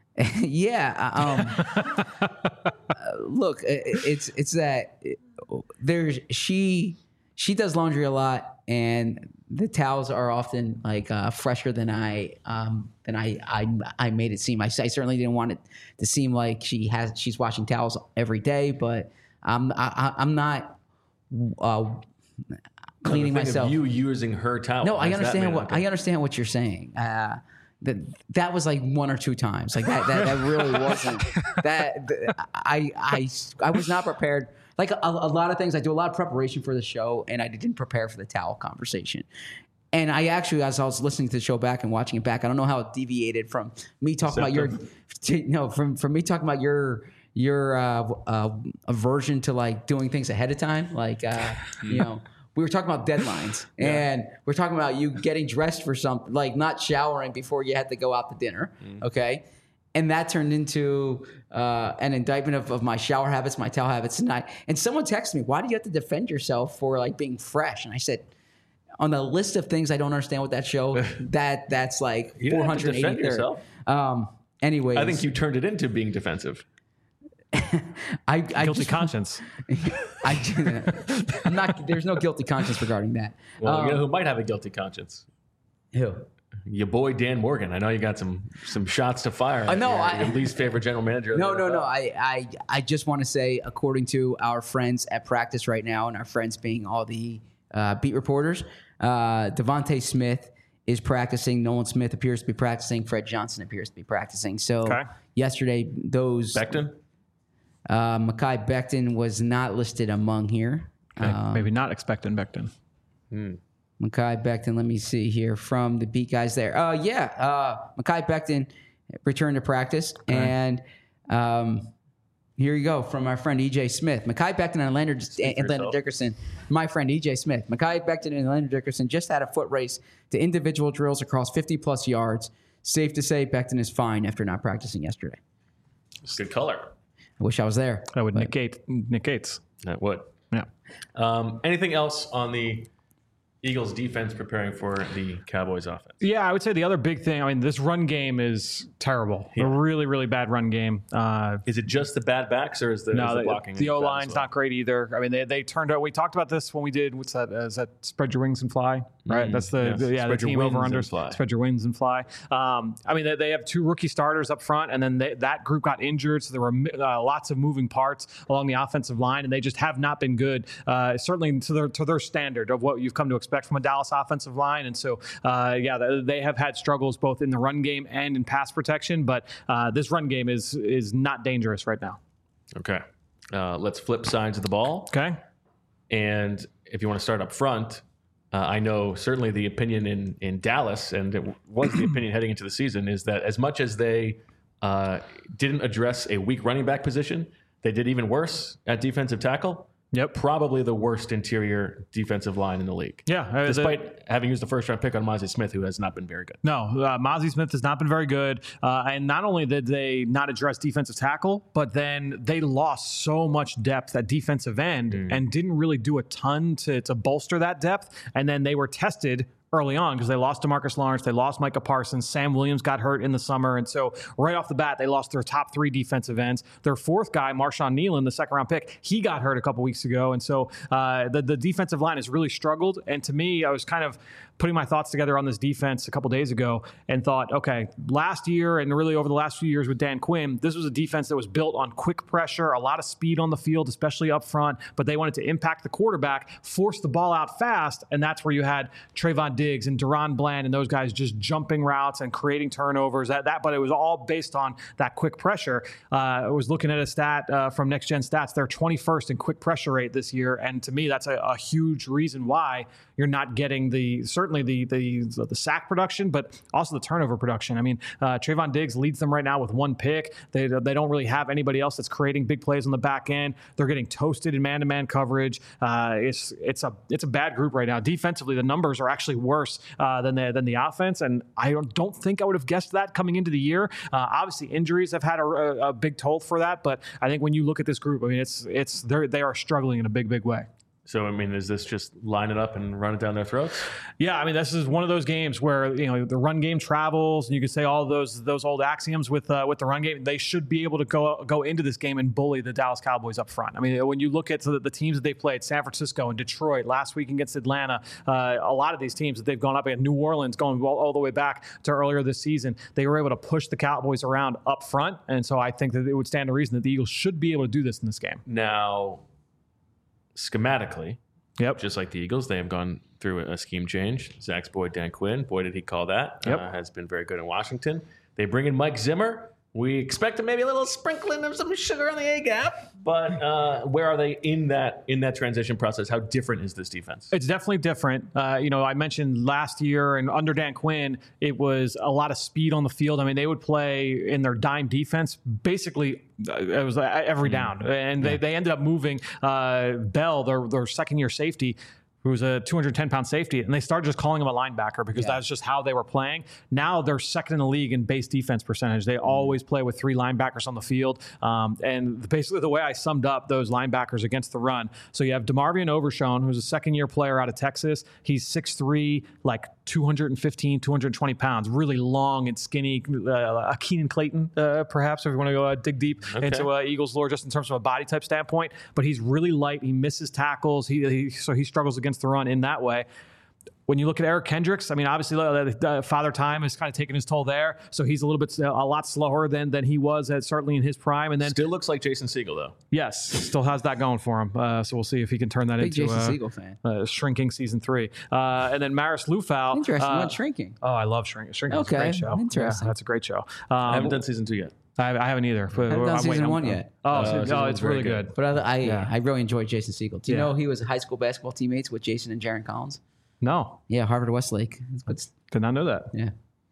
yeah. Um, uh, look, it, it's it's that there's she she does laundry a lot, and the towels are often like uh, fresher than I um, than I, I I made it seem. I, I certainly didn't want it to seem like she has she's washing towels every day, but I'm I, I'm not uh, cleaning No, the thing myself. Of you using her towel. No, I How's that understand made? what Okay. I understand what you're saying. Uh, that that was like one or two times. Like that that, that really wasn't that. th- I I I was not prepared. Like a, a lot of things, I do a lot of preparation for the show, and I didn't prepare for the towel conversation. And I actually, as I was listening to the show back and watching it back, I don't know how it deviated from me talking about your, to, no, from from me talking about your your uh, uh, aversion to like doing things ahead of time, like uh, you know. We were talking about deadlines, and we're talking about you getting dressed for something, like not showering before you had to go out to dinner, okay? and that turned into uh, an indictment of, of my shower habits, my towel habits tonight. And someone texted me, "Why do you have to defend yourself for like being fresh?" And I said, on the list of things I don't understand with that show, that that's like four hundred eighty-third. Um, anyways, I think you turned it into being defensive. I, I Guilty just, conscience. I, I'm not. There's no guilty conscience regarding that. Well, Um, you know who might have a guilty conscience? who? Your boy Dan Morgan. I know you got some some shots to fire. I know, Your, I- your least favorite general manager. of No, the no, N F no. L. I, I, I just want to say, according to our friends at practice right now, and our friends being all the uh, beat reporters, uh, Devontae Smith is practicing. Nolan Smith appears to be practicing. Fred Johnson appears to be practicing. So Okay. yesterday, those Becton. uh, Mekhi Becton was not listed among here. Um, Maybe not expecting Becton. Mekhi Becton, let me see here from the beat guys there. Uh, yeah, uh, Mekhi Becton returned to practice. And um, here you go from our friend E J Smith. Mekhi Becton and Leonard, for and Leonard yourself. Dickerson, my friend E J Smith. Mekhi Becton and Leonard Dickerson just had a foot race to individual drills across fifty-plus yards. Safe to say Becton is fine after not practicing yesterday. Good color. I wish I was there. That would negate Nick Gates. That would. Yeah. Um, anything else on the Eagles defense preparing for the Cowboys offense? Yeah, I would say the other big thing, I mean, this run game is terrible. A really, really bad run game. Uh, Is it just the bad backs or is the, is no, the the, blocking? the bad O as line's well? not great either. I mean, they, they turned out, we talked about this when we did, what's that? Uh, is that Spread Your Wings and Fly? Right? Mm, That's the, yes. the yeah, Spread the your team wings over and under. fly. Spread Your Wings and Fly. Um, I mean, they, they have two rookie starters up front, and then they, that group got injured, so there were uh, lots of moving parts along the offensive line, and they just have not been good, uh, certainly to their, to their standard of what you've come to expect from a Dallas offensive line. And so, uh, yeah, they, they have had struggles both in the run game and in pass protection, but uh, this run game is is not dangerous right now. Okay. Uh, let's flip sides of the ball. Okay. And if you want to start up front, uh, I know certainly the opinion in, in Dallas, and it was the opinion heading into the season, is that as much as they uh, didn't address a weak running back position, they did even worse at defensive tackle. Yep. Probably the worst interior defensive line in the league. Yeah. uh, the- Despite having used the first round pick on Mozzie Smith, who has not been very good. No, uh, Mozzie Smith has not been very good. Uh, and not only did they not address defensive tackle, but then they lost so much depth at defensive end and didn't really do a ton to, to bolster that depth. And then they were tested early on because they lost DeMarcus Lawrence, they lost Micah Parsons, Sam Williams got hurt in the summer, and so right off the bat they lost their top three defensive ends. Their fourth guy, Marshawn Nealon, the second round pick, he got hurt a couple weeks ago, and so uh, the the defensive line has really struggled. And to me, I was kind of putting my thoughts together on this defense a couple days ago and thought, okay, last year and really over the last few years with Dan Quinn, this was a defense that was built on quick pressure, a lot of speed on the field, especially up front, but they wanted to impact the quarterback, force the ball out fast, and that's where you had Trayvon Diggs and Deron Bland and those guys just jumping routes and creating turnovers. That, that, but it was all based on that quick pressure. Uh, I was looking at a stat uh, from Next Gen Stats. They're twenty-first in quick pressure rate this year, and to me, that's a, a huge reason why you're not getting the certainly the the the sack production, but also the turnover production. I mean, uh, Trayvon Diggs leads them right now with one pick. They they don't really have anybody else that's creating big plays on the back end. They're getting toasted in man-to-man coverage. Uh, it's it's a it's a bad group right now. Defensively, the numbers are actually worse uh, than the than the offense, and I don't, don't think I would have guessed that coming into the year. Uh, obviously, injuries have had a, a, a big toll for that, but I think when you look at this group, I mean, it's it's they they are struggling in a big big way. So, I mean, is this just line it up and run it down their throats? Yeah, I mean, this is one of those games where, you know, the run game travels, and you can say all those those old axioms with uh, with the run game. They should be able to go go into this game and bully the Dallas Cowboys up front. I mean, when you look at the, the teams that they played, San Francisco and Detroit, last week against Atlanta, uh, a lot of these teams that they've gone up against, New Orleans going all, all the way back to earlier this season, they were able to push the Cowboys around up front. And so I think that it would stand to reason that the Eagles should be able to do this in this game. Now, schematically, Yep. just like the Eagles, they have gone through a scheme change. Zach's boy, Dan Quinn, boy, did he call that, Yep. uh, has been very good in Washington. They bring in Mike Zimmer. We expect maybe a little sprinkling of some sugar on the A-gap, but uh, where are they in that in that transition process? How different is this defense? It's definitely different. Uh, you know, I mentioned last year and under Dan Quinn, it was a lot of speed on the field. I mean, they would play in their dime defense basically. It was every down, and they, they ended up moving uh, Bell, their their second year safety, who was a two hundred ten pound safety, and they started just calling him a linebacker because Yeah. that's just how they were playing. Now they're second in the league in base defense percentage. They always play with three linebackers on the field. Um, and basically the way I summed up those linebackers against the run. So you have DeMarvion Overshown, who's a second year player out of Texas. He's six three, like two hundred fifteen, two hundred twenty pounds, really long and skinny. Uh, a Keenan Clayton, uh, perhaps, if you want to go uh, dig deep Okay. into uh, Eagles lore, just in terms of a body type standpoint. But he's really light. He misses tackles. He, he so he struggles against the run in that way. When you look at Eric Kendricks, I mean, obviously, uh, uh, Father Time has kind of taken his toll there, so he's a little bit, uh, a lot slower than than he was at, certainly in his prime. And then, Still looks like Jason Segel, though. yes, still has that going for him. Uh, so we'll see if he can turn that Big into Jason uh, Segel fan. uh, shrinking season three. Uh, and then Maris Lufau. Interesting. Uh, What's shrinking? oh, I love Shrinking. Shrinking is a Okay, great show. interesting. Yeah, that's a great show. I Um, haven't done season two yet. I, I haven't either. But haven't done I'm season waiting. one I'm- yet. Oh, Uh, so- season oh, one's it's very really good. good. But I, I, Yeah. I really enjoyed Jason Segel. Do you Yeah. know he was high school basketball teammates with Jason and Jaron Collins? No, Yeah, Harvard Westlake. It's, did not know that. yeah.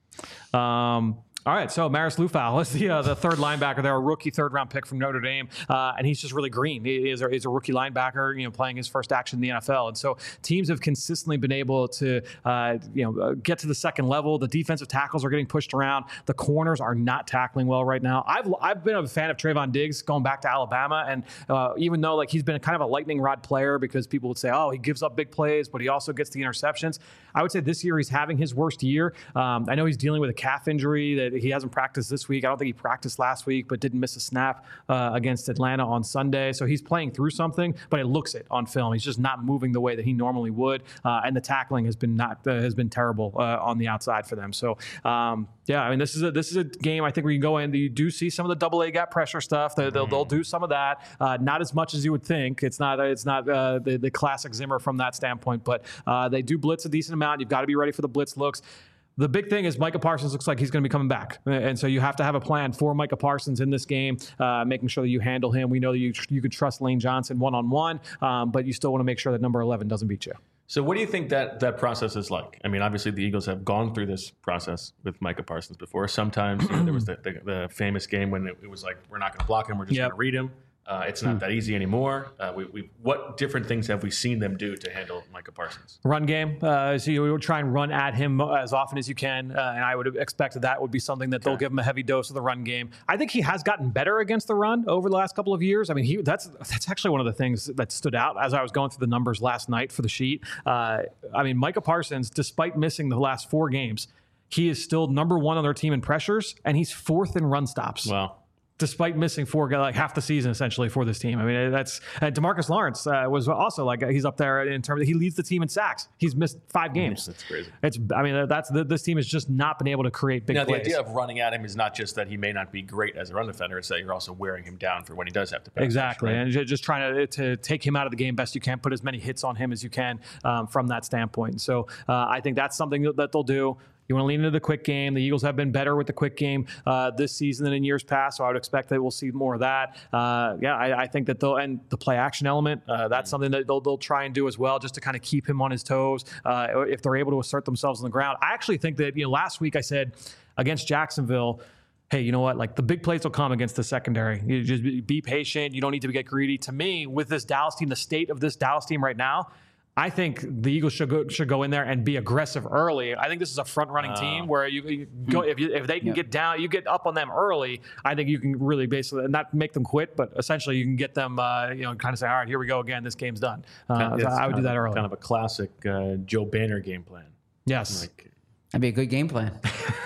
Um, all right, so Maris Lufau is the uh, the third linebacker there, a rookie third round pick from Notre Dame, uh, and he's just really green. He is a, he's a rookie linebacker, you know, playing his first action in the N F L, and so teams have consistently been able to, uh, you know, uh, get to the second level. The defensive tackles are getting pushed around. The corners are not tackling well right now. I've I've been a fan of Trayvon Diggs going back to Alabama, and uh, even though like he's been kind of a lightning rod player because people would say, oh, he gives up big plays, but he also gets the interceptions. I would say this year he's having his worst year. Um, I know he's dealing with a calf injury that he hasn't practiced this week. I don't think he practiced last week, but didn't miss a snap uh, against Atlanta on Sunday. So he's playing through something, but it looks it on film. He's just not moving the way that he normally would, uh, and the tackling has been not uh, has been terrible uh, on the outside for them. So um, yeah, I mean this is a this is a game I think we can go in. You do see some of the double A gap pressure stuff. They, they'll, they'll do some of that, uh, not as much as you would think. It's not it's not uh, the the classic Zimmer from that standpoint, but uh, they do blitz a decent amount. You've got to be ready for the blitz looks. The big thing is Micah Parsons looks like he's going to be coming back. And so you have to have a plan for Micah Parsons in this game, uh, making sure that you handle him. We know that you you can trust Lane Johnson one-on-one, um, but you still want to make sure that number eleven doesn't beat you. So what do you think that that process is like? I mean, obviously the Eagles have gone through this process with Micah Parsons before. Sometimes you know, there was the, the, the famous game when it, it was like, we're not going to block him, we're just Yep. going to read him. Uh, it's not that easy anymore. Uh, we, we, what different things have we seen them do to handle Micah Parsons? Run game. Uh, so you would try and run at him as often as you can. Uh, and I would expect that that would be something that they'll give him a heavy dose of the run game. I think he has gotten better against the run over the last couple of years. I mean, he that's that's actually one of the things that stood out as I was going through the numbers last night for the sheet. Uh, I mean, Micah Parsons, despite missing the last four games, he is still number one on their team in pressures, and he's fourth in run stops. Wow. Despite missing four, like half the season essentially for this team. I mean, that's uh, DeMarcus Lawrence uh, was also like he's up there in terms of he leads the team in sacks. He's missed five games. That's crazy. It's I mean that's this team has just not been able to create big Now, the plays. idea of running at him is not just that he may not be great as a run defender. It's that you're also wearing him down for when he does have to pass. Exactly, rush, right? and ju- just trying to to take him out of the game best you can, put as many hits on him as you can um, from that standpoint. So uh, I think that's something that they'll do. You want to lean into the quick game. The Eagles have been better with the quick game uh, this season than in years past, so I would expect that we'll see more of that. Uh, yeah, I, I think that they'll and the play action element. Uh, that's something that they'll they'll try and do as well, just to kind of keep him on his toes. Uh, if they're able to assert themselves on the ground, I actually think that you know last week I said against Jacksonville, hey, you know what? Like the big plays will come against the secondary. You just be, be patient. You don't need to get greedy. To me, with this Dallas team, the state of this Dallas team right now, I think the Eagles should go should go in there and be aggressive early. I think this is a front running uh, team where you, you go if you, if they can yep. get down, you get up on them early. I think you can really basically not make them quit, but essentially you can get them, uh, you know, kind of say, all right, here we go again. This game's done. Uh, so I would do that of, early. Kind of a classic uh, Joe Banner game plan. Yes, like, that'd be a good game plan.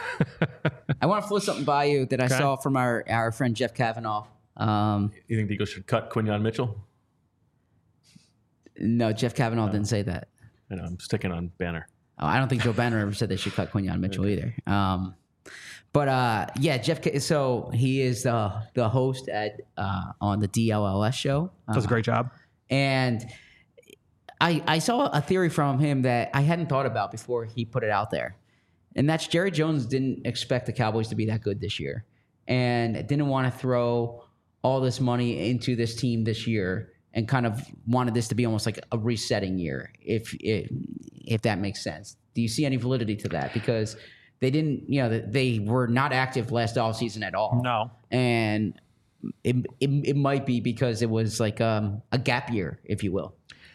I want to float something by you that I okay. saw from our our friend Jeff Kavanaugh. Um, you think the Eagles should cut Quinyon Mitchell? No, Jeff Kavanaugh no. didn't say that. I know, I'm sticking on Banner. Oh, I don't think Joe Banner ever said they should cut Quinyon Mitchell okay. either. Um, but uh, yeah, Jeff. So he is the the host at uh, on the D L L S show. Uh, Does a great job. And I I saw a theory from him that I hadn't thought about before he put it out there, and that's Jerry Jones didn't expect the Cowboys to be that good this year, and didn't want to throw all this money into this team this year. And kind of wanted this to be almost like a resetting year, if, if if that makes sense. Do you see any validity to that? Because they didn't, you know, they were not active last offseason at all. No. And it, it it might be because it was like um, a gap year, if you will.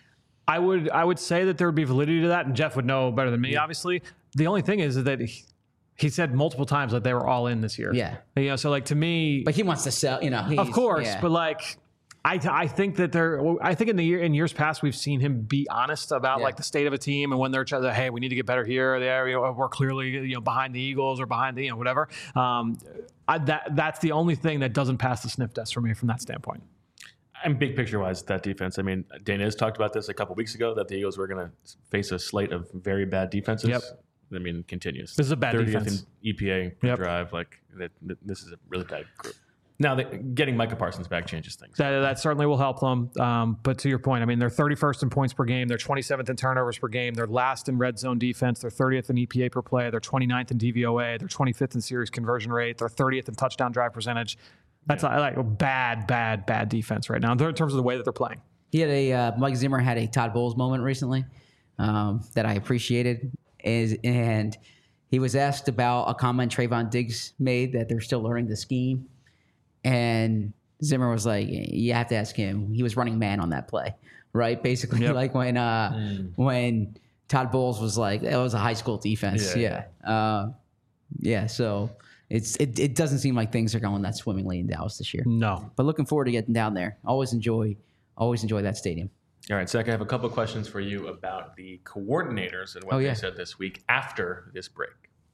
I would I would say that there would be validity to that, and Jeff would know better than me, obviously. The only thing is that he, he said multiple times that they were all in this year. Yeah. You know, so like to me, But he wants to sell, you know. He's, of course, yeah. but like I I think that there I think in the year in years past we've seen him be honest about Yeah. like the state of a team and when they're trying to, hey, we need to get better here or there, you know, we're clearly, you know, behind the Eagles or behind the, you know, whatever. Um, I, that that's the only thing that doesn't pass the sniff test for me from that standpoint. And big picture wise, that defense. I mean, Dana has talked about this a couple weeks ago that the Eagles were going to face a slate of very bad defenses. Yep. I mean, continues. This is a bad thirtieth defense. in E P A Yep. drive. Like that, that- this is a really bad group. Now, that getting Micah Parsons back changes things. That, that certainly will help them. Um, but to your point, I mean, they're thirty-first in points per game. They're twenty-seventh in turnovers per game. They're last in red zone defense. They're thirtieth in E P A per play. They're twenty-ninth in D V O A. They're twenty-fifth in series conversion rate. They're thirtieth in touchdown drive percentage. That's yeah. like a bad, bad, bad defense right now in terms of the way that they're playing. He had a uh, Mike Zimmer had a Todd Bowles moment recently um, that I appreciated, is and he was asked about a comment Trayvon Diggs made that they're still learning the scheme, and Zimmer was like, "You have to ask him. He was running man on that play, right? Basically, yep. like when uh, mm. when Todd Bowles was like, it was a high school defense, yeah, yeah. Uh, yeah so." It's it, it doesn't seem like things are going that swimmingly in Dallas this year. No. But looking forward to getting down there. Always enjoy always enjoy that stadium. All right, Zach, I have a couple of questions for you about the coordinators and what oh, they yeah. said this week after this break.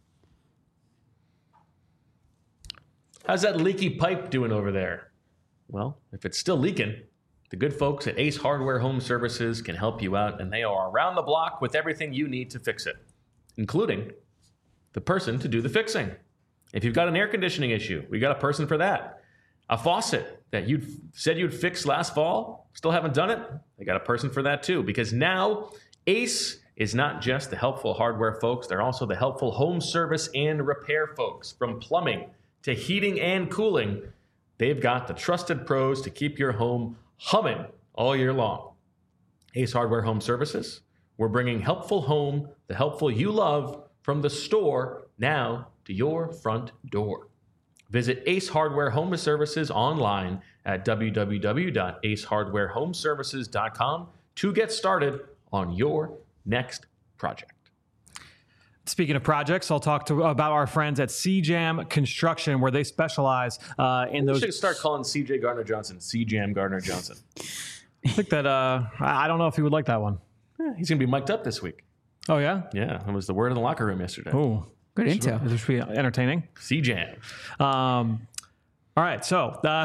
How's that leaky pipe doing over there? Well, if it's still leaking, the good folks at Ace Hardware Home Services can help you out, and they are around the block with everything you need to fix it, including the person to do the fixing. If you've got an air conditioning issue, we got a person for that. A faucet that you said you'd fix last fall, still haven't done it, they got a person for that too. Because now Ace is not just the helpful hardware folks, they're also the helpful home service and repair folks. From plumbing to heating and cooling, they've got the trusted pros to keep your home humming all year long. Ace Hardware Home Services, we're bringing helpful home, the helpful you love, from the store now to your front door. Visit Ace Hardware Home Services online at w w w dot ace hardware home services dot com to get started on your next project. Speaking of projects, I'll talk to about our friends at C Jam Construction, where they specialize uh, in we those. We should start calling C J Gardner Johnson C Jam Gardner Johnson. I think that uh, I don't know if he would like that one. Yeah, he's going to be mic'd up this week. Oh yeah, yeah. That was the word in the locker room yesterday. Oh. Good intel. This should be entertaining. C-Jam. Um, all right, so uh,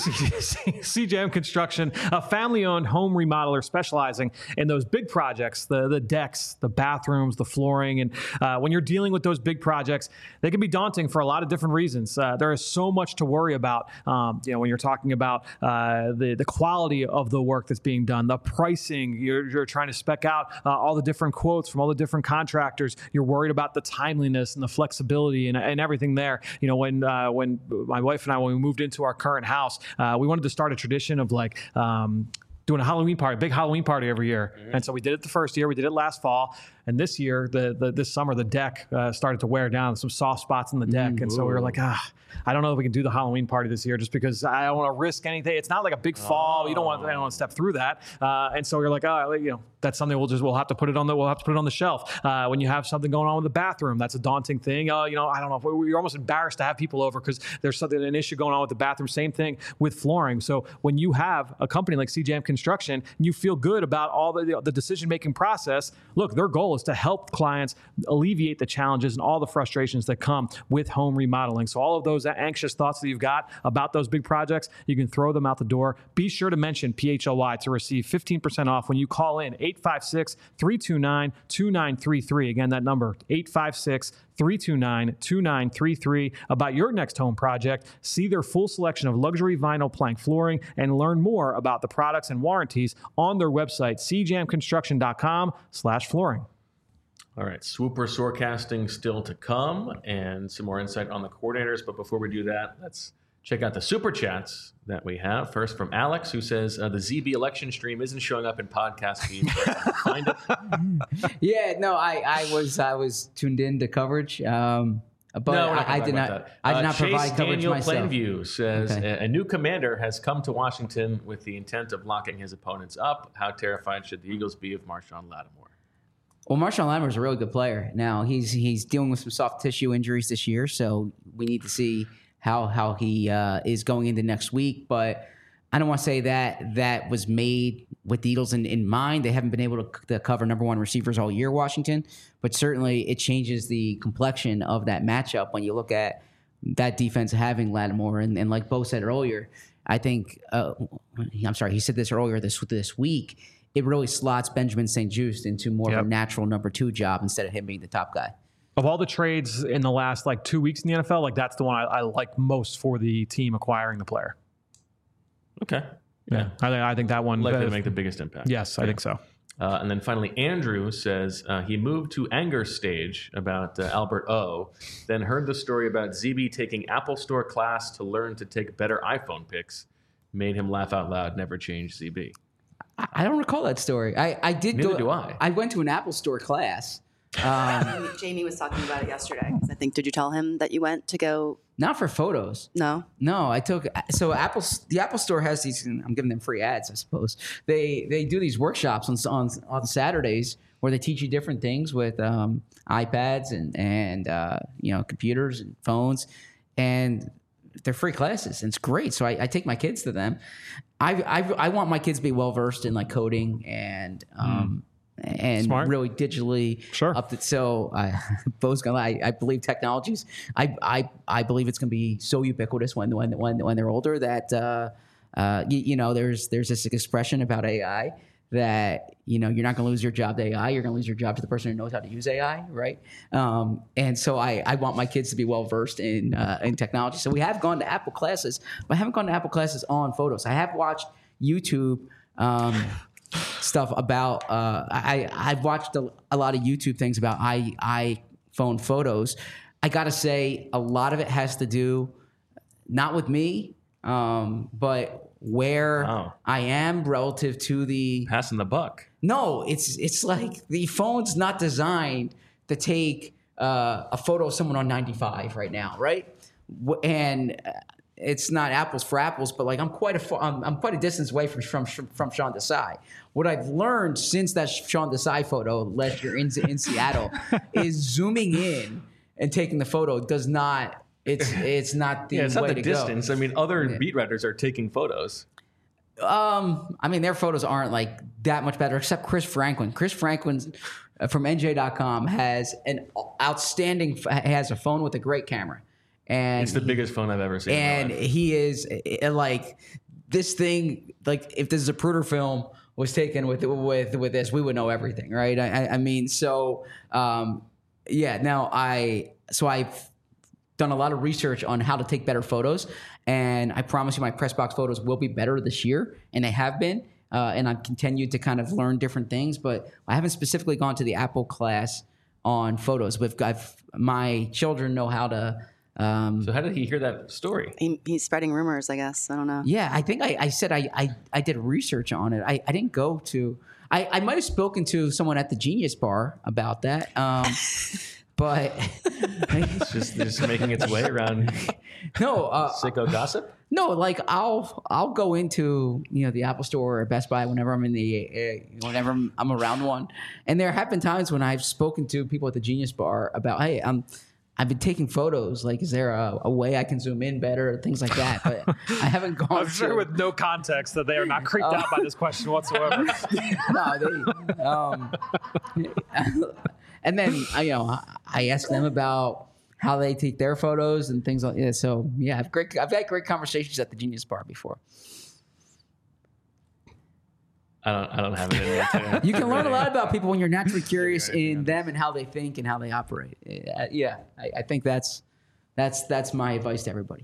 C-Jam Construction, a family-owned home remodeler specializing in those big projects, the the decks, the bathrooms, the flooring. And uh, when you're dealing with those big projects, they can be daunting for a lot of different reasons. Uh, there is so much to worry about. Um, you know, when you're talking about uh, the the quality of the work that's being done, the pricing. You're, you're trying to spec out uh, all the different quotes from all the different contractors. You're worried about the timeliness and the flexibility and, and everything there. You know, when uh, when my wife and I, when we moved into our current house, uh, we wanted to start a tradition of like um, doing a Halloween party, a big Halloween party every year. Mm-hmm. And so we did it the first year, we did it last fall. And this year, the, the this summer, the deck uh, started to wear down, some soft spots in the deck. Mm-hmm. And so we were like, ah, I don't know if we can do the Halloween party this year just because I don't want to risk anything. It's not like a big fall. Oh. You don't want, I don't want to step through that. Uh, and so we were like, oh, you know, that's something we'll just, we'll have to put it on the, we'll have to put it on the shelf. Uh, when you have something going on with the bathroom, that's a daunting thing. Uh, you know, I don't know, if you're almost embarrassed to have people over because there's something, an issue going on with the bathroom. Same thing with flooring. So when you have a company like C-Jam Construction, and you feel good about all the, the decision-making process, look, their goal is to help clients alleviate the challenges and all the frustrations that come with home remodeling. So all of those anxious thoughts that you've got about those big projects, you can throw them out the door. Be sure to mention P H L Y to receive fifteen percent off when you call in eight five six, three two nine, two nine three three. Again, that number, eight five six, three two nine, two nine three three. About your next home project, see their full selection of luxury vinyl plank flooring and learn more about the products and warranties on their website, c jam construction dot com slash flooring. All right, Swooper Sorecasting still to come and some more insight on the coordinators. But before we do that, let's check out the Super Chats that we have. First from Alex, who says, uh, the Z B election stream isn't showing up in podcast feeds. Find it. Yeah, no, I, I was I was tuned in to coverage. Um, but no, we're not I, I gonna did talk not. about that. I did Uh, not Chase provide coverage Daniel myself. Plainview says Okay. a, a new commander has come to Washington with the intent of locking his opponents up. How terrified should the Eagles be of Marshawn Lattimore? Well, Marshawn Lattimore is a really good player. Now he's he's dealing with some soft tissue injuries this year, so we need to see how how he uh, is going into next week. But I don't want to say that that was made with the Eagles in, in mind. They haven't been able to, to cover number one receivers all year, Washington. But certainly it changes the complexion of that matchup when you look at that defense having Lattimore. And, and like Bo said earlier, I think uh, I'm sorry, he said this earlier this this week. It really slots Benjamin Saint-Juste into more Yep. of a natural number two job instead of him being the top guy. Of all the trades in the last like two weeks in the N F L, like that's the one I, I like most for the team acquiring the player. Okay. Yeah, I, think I think that one Likely uh, to make the biggest impact. Yes, I think so. Uh, and then finally, Andrew says uh, he moved to anger stage about uh, Albert O, then heard the story about Z B taking Apple Store class to learn to take better iPhone pics. Made him laugh out loud, never change Z B. I, I don't recall that story. I, I did Neither go. do I. I went to an Apple Store class. Um, Jamie was talking about it yesterday. 'Cause I think, did you tell him that you went to go? not for photos. No. No, I took so Apple. The Apple Store has these. I'm giving them free ads, I suppose. They they do these workshops on on, on Saturdays where they teach you different things with um, iPads and and uh, you know computers and phones, and they're free classes. And it's great. So I, I take my kids to them. I, I I want my kids to be well versed in like coding and. Um, And Smart. really digitally Sure. up to so I Bo's gonna I, I believe technologies I, I I believe it's gonna be so ubiquitous when when when when they're older that uh, uh, you, you know there's there's this expression about A I that you know you're not gonna lose your job to A I, you're gonna lose your job to the person who knows how to use A I, right? Um, and so I, I want my kids to be well versed in uh, in technology. So we have gone to Apple classes, but I haven't gone to Apple classes on photos. I have watched YouTube. Um, stuff about uh, I I've watched a, a lot of YouTube things about i iPhone photos. I gotta say a lot of it has to do not with me, um, but where Wow. I am relative to the Passing the buck. no, it's it's like the phone's not designed to take uh, a photo of someone on ninety-five right now, right? W- And uh, it's not apples for apples, but like I'm quite a far, I'm, I'm quite a distance away from from from Sean Desai. What I've learned since that Sean Desai photo last year in in Seattle is zooming in and taking the photo does not. It's it's not the Yeah, it's way not the to distance. go. I mean, other beat writers are taking photos. Um, I mean, their photos aren't like that much better, except Chris Franklin. Chris Franklin uh, from N J dot com has an outstanding, has a phone with a great camera, and It's the biggest phone I've ever seen. and in my life. he is uh, like this thing. Like if this Zapruder film was taken with with with this, we would know everything, right? I, I- I mean, so um, yeah. Now I so I've done a lot of research on how to take better photos, and I promise you my press box photos will be better this year, and they have been, uh, and I've continued to kind of learn different things, but I haven't specifically gone to the Apple class on photos. We've got my children know how to. Um, So how did he hear that story? He, he's spreading rumors, I guess. I don't know. yeah, I think I, I said I, I, I did research on it. I, I didn't go to. I, I might have spoken to someone at the Genius Bar about that. Um, but It's just, just making its way around no, uh, sicko gossip. no. Like I'll I'll go into you know the Apple Store or Best Buy whenever I'm in the uh, whenever I'm, I'm around one, and there have been times when I've spoken to people at the Genius Bar about hey I'm. I've been taking photos. Like, is there a, a way I can zoom in better? Things like that. But I haven't gone. I'm sure to, with no context that they are not creeped out by this question whatsoever. no, they, um, and then I, you know, I ask them about how they take their photos and things like that. So yeah, I've great. I've had great conversations at the Genius Bar before. I don't. I don't have it in me. To, You can learn a really- lot about people when you're naturally curious in them and how they think and how they operate. Uh, yeah, I, I think that's that's that's my advice to everybody.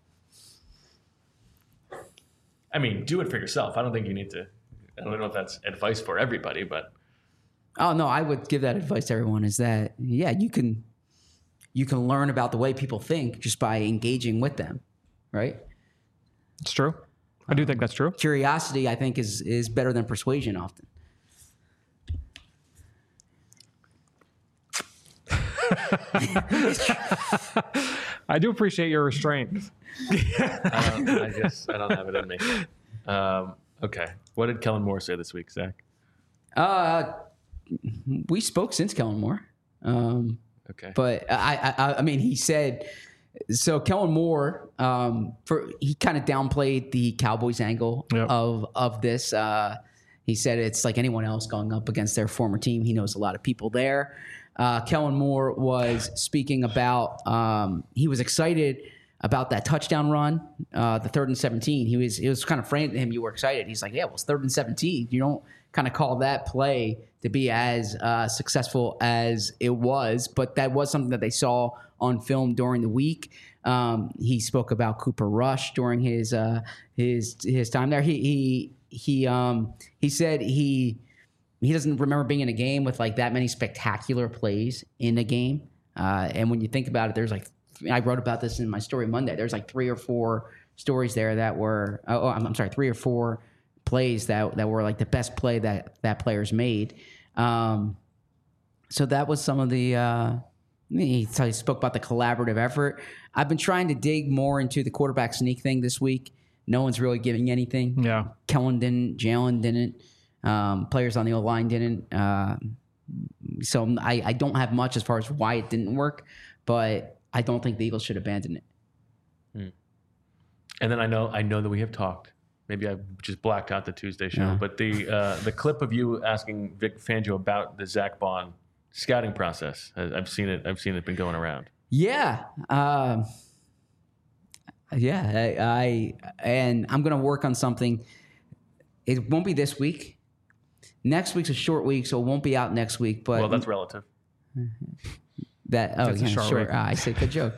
I mean, do it for yourself. I don't think you need to. I don't know if that's advice for everybody, but Oh no, I would give that advice to everyone. Is that yeah, you can you can learn about the way people think just by engaging with them, right? It's true. I do think that's true. Curiosity, I think, is is better than persuasion often. I do appreciate your restraint. I, don't, I just I don't have it in me. Um, okay, what did Kellen Moore say this week, Zach? Uh, we spoke since Kellen Moore. Um, Okay, but I, I, I mean, he said so. Kellen Moore, um, for he kind of downplayed the Cowboys angle Yep. of of this. Uh, he said it's like anyone else going up against their former team. He knows a lot of people there. Uh, Kellen Moore was speaking about. Um, he was excited about that touchdown run, uh, the third and seventeen. He was it was kind of framed to him. You were excited. He's like, yeah, well, it's third and seventeen. You don't kind of call that play to be as uh, successful as it was, but that was something that they saw on film during the week. Um, he spoke about Cooper Rush during his uh, his his time there. He he he um, he said he he doesn't remember being in a game with like that many spectacular plays in a game. Uh, and when you think about it, there's like I wrote about this in my story Monday. There's like three or four stories there that were oh I'm, I'm sorry three or four plays that that were like the best play that that players made. Um, so that was some of the. Uh, he, he spoke about the collaborative effort. I've been trying to dig more into the quarterback sneak thing this week. No one's really giving anything. Yeah, Kellen didn't. Jalen didn't. Um, players on the O line didn't. Uh, so I, I don't have much as far as why it didn't work, but I don't think the Eagles should abandon it. Hmm. And then I know I know that we have talked. Maybe I just blacked out the Tuesday show, Yeah. but the uh, the clip of you asking Vic Fangio about the Zach Bond scouting process, I- I've seen it. I've seen it been going around. Yeah. Um, yeah. I, I and I'm going to work on something. It won't be this week. Next week's a short week, so it won't be out next week. But Well, that's relative. that oh It's a yeah, short sure. week. Ah, I said good joke.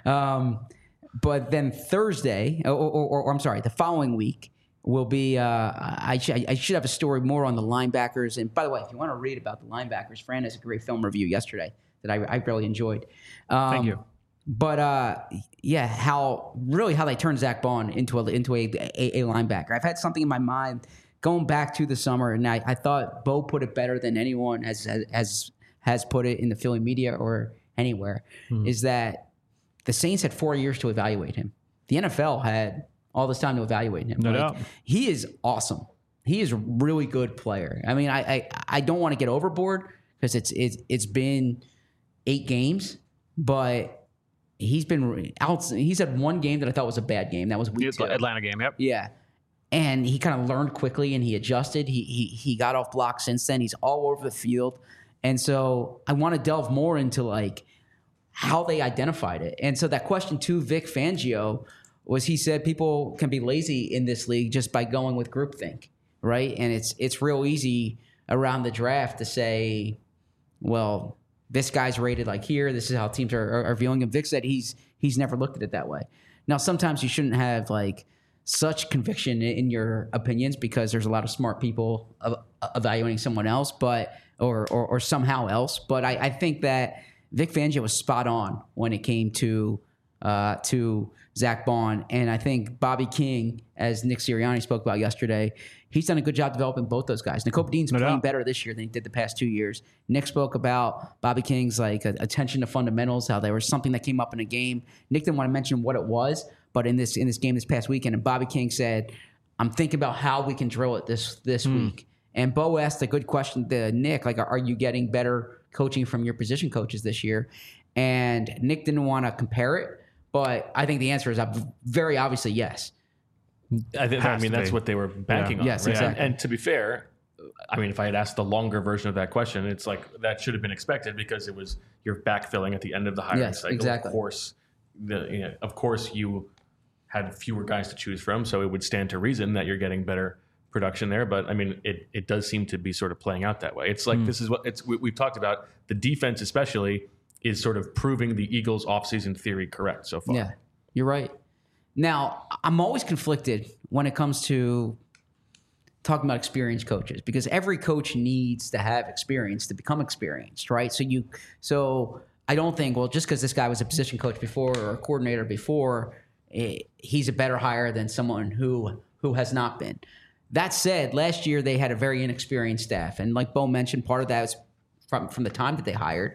um, but then Thursday, or, or, or, or I'm sorry, the following week will be. Uh, I, sh- I should have a story more on the linebackers. And by the way, if you want to read about the linebackers, Fran has a great film review yesterday that I, I really enjoyed. Um, Thank you. But uh, yeah, how really how they turned Zach Bond into a into a, a, a linebacker. I've had something in my mind going back to the summer, and I, I thought Bo put it better than anyone has has has put it in the Philly media or anywhere. Hmm. Is that the Saints had four years to evaluate him. The N F L had all this time to evaluate him. No Like, doubt. he is awesome. He is a really good player. I mean, I I, I don't want to get overboard because it's it's it's been eight games, but he's been out. He's had one game that I thought was a bad game. That was week two. Atlanta game. Yep. Yeah. And he kind of learned quickly and he adjusted. He, he he got off blocks since then. He's all over the field. And so I want to delve more into like how they identified it. And so that question to Vic Fangio was he said people can be lazy in this league just by going with groupthink, right? And it's it's real easy around the draft to say, well, this guy's rated like here. This is how teams are, are, are viewing him. Vic said he's he's never looked at it that way. Now, sometimes you shouldn't have like such conviction in your opinions because there's a lot of smart people of, evaluating someone else, but or or, or somehow else. But I, I think that Vic Fangio was spot on when it came to uh, to Zach Bond, and I think Bobby King, as Nick Sirianni spoke about yesterday, he's done a good job developing both those guys. Nakobe Dean's No playing doubt. better this year than he did the past two years. Nick spoke about Bobby King's like attention to fundamentals, how there was something that came up in a game. Nick didn't want to mention what it was, but in this in this game this past weekend, and Bobby King said, "I'm thinking about how we can drill it this this week." And Bo asked a good question to Nick, like, "Are you getting better coaching from your position coaches this year?" And Nick didn't want to compare it, but I think the answer is very obviously yes. I, think, I Has mean, to that's be. what they were banking Yeah. on. Yes, right? exactly. And, and to be fair, I mean, if I had asked the longer version of that question, it's like that should have been expected because it was you're backfilling at the end of the hiring Yes, cycle. exactly. Of course, the, you know, of course, you had fewer guys to choose from, so it would stand to reason that you're getting better production there. But I mean, it it does seem to be sort of playing out that way. It's like this is what it's we, we've talked about. The defense, especially, is sort of proving the Eagles' offseason theory correct so far. Yeah, you're right. Now, I'm always conflicted when it comes to talking about experienced coaches because every coach needs to have experience to become experienced, right? So you, so I don't think, well, just because this guy was a position coach before or a coordinator before, eh, he's a better hire than someone who who has not been. That said, last year they had a very inexperienced staff, and like Bo mentioned, part of that was from from the time that they hired.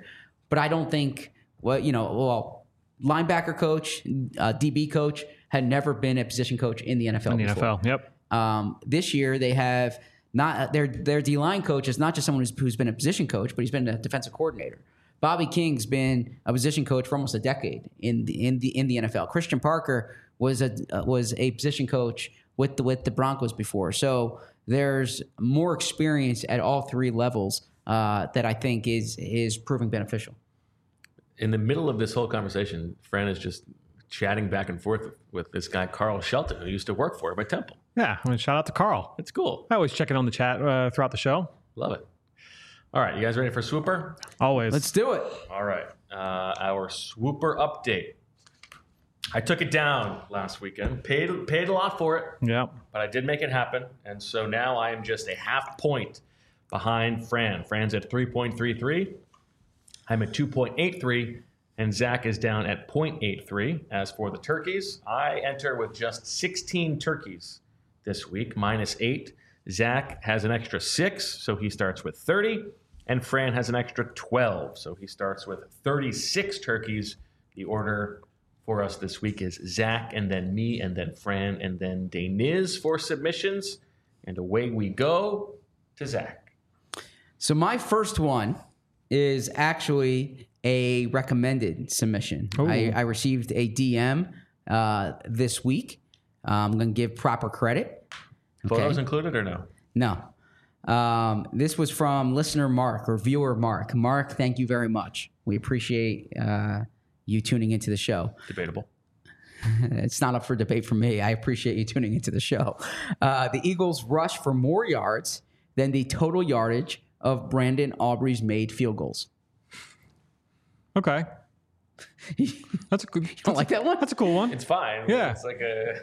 but I don't think, well, you know, well, linebacker coach, uh, D B coach had never been a position coach in the N F L In the before. N F L, yep. Um, this year they have not their their D line coach is not just someone who's, who's been a position coach, but he's been a defensive coordinator. Bobby King's been a position coach for almost a decade in the in the in the N F L. Christian Parker was a uh, was a position coach with the with the Broncos before. So there's more experience at all three levels uh, that I think is is proving beneficial. In the middle of this whole conversation, Fran is just chatting back and forth with this guy, Carl Shelton, who used to work for him at Temple. Yeah, I mean, shout out to Carl. It's cool. I always check in on the chat uh, throughout the show. Love it. All right, you guys ready for Swooper? Always. Let's do it. All right, uh, our Swooper update. I took it down last weekend, paid paid a lot for it, Yeah. but I did make it happen. And so now I am just a half point behind Fran. Fran's at three point three three. I'm at two point eight three. And Zach is down at zero point eight three. As for the turkeys, I enter with just sixteen turkeys this week, minus eight. Zach has an extra six, so he starts with thirty. And Fran has an extra twelve, so he starts with thirty-six turkeys. The order for us this week is Zach, and then me, and then Fran, and then Deniz for submissions. And away we go to Zach. So my first one is actually a recommended submission. I, I received a D M uh, this week. Uh, I'm going to give proper credit. Photos included or no? No. Um, this was from listener Mark or viewer Mark. Mark, thank you very much. We appreciate uh, you tuning into the show. Debatable. It's not up for debate for me. I appreciate you tuning into the show. Uh, the Eagles rush for more yards than the total yardage of Brandon Aubrey's made field goals. Okay. That's a good. You don't like that one? That's a cool one. It's fine. Yeah. It's like a.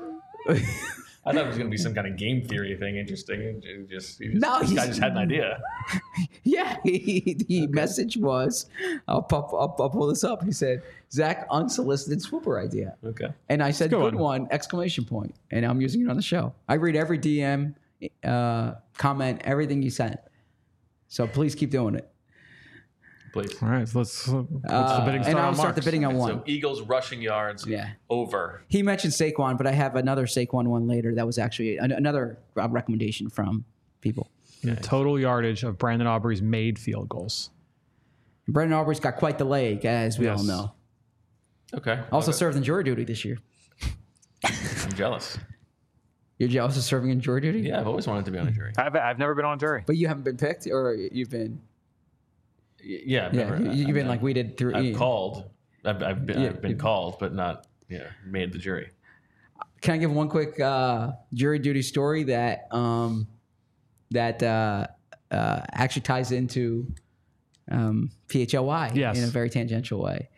I thought it was going to be some kind of game theory thing, interesting. And it just, he just, No, this guy he's- just had an idea. Yeah, he, the message was, I'll, pop, I'll, I'll pull this up. He said, Zach, unsolicited swooper idea. Okay. And I said, Good good one. one, exclamation point. And I'm using it on the show. I read every D M, uh, comment, everything you sent. So please keep doing it. Please. All right, so let's, let's Uh, the bidding and start I'll on start the Mark's. bidding on one. So Eagles rushing yards Yeah. over. He mentioned Saquon, but I have another Saquon one later. That was actually an, another uh, recommendation from people. The total yardage of Brandon Aubrey's made field goals. Brandon Aubrey's got quite the leg, as we Yes. all know. Okay. Also Okay. served in jury duty this year. I'm jealous. You're jealous of serving in jury duty? Yeah, I've always wanted to be on a jury. I've, I've never been on a jury. But you haven't been picked, or you've been? Y- Yeah. I've Yeah, never- you, you've I've been done- like we did through. I've Ian. called. I've, I've been, Yeah, I've been you- called, but not yeah made the jury. Can I give one quick uh, jury duty story that um, that uh, uh, actually ties into um, P H L Y Yes. in a very tangential way?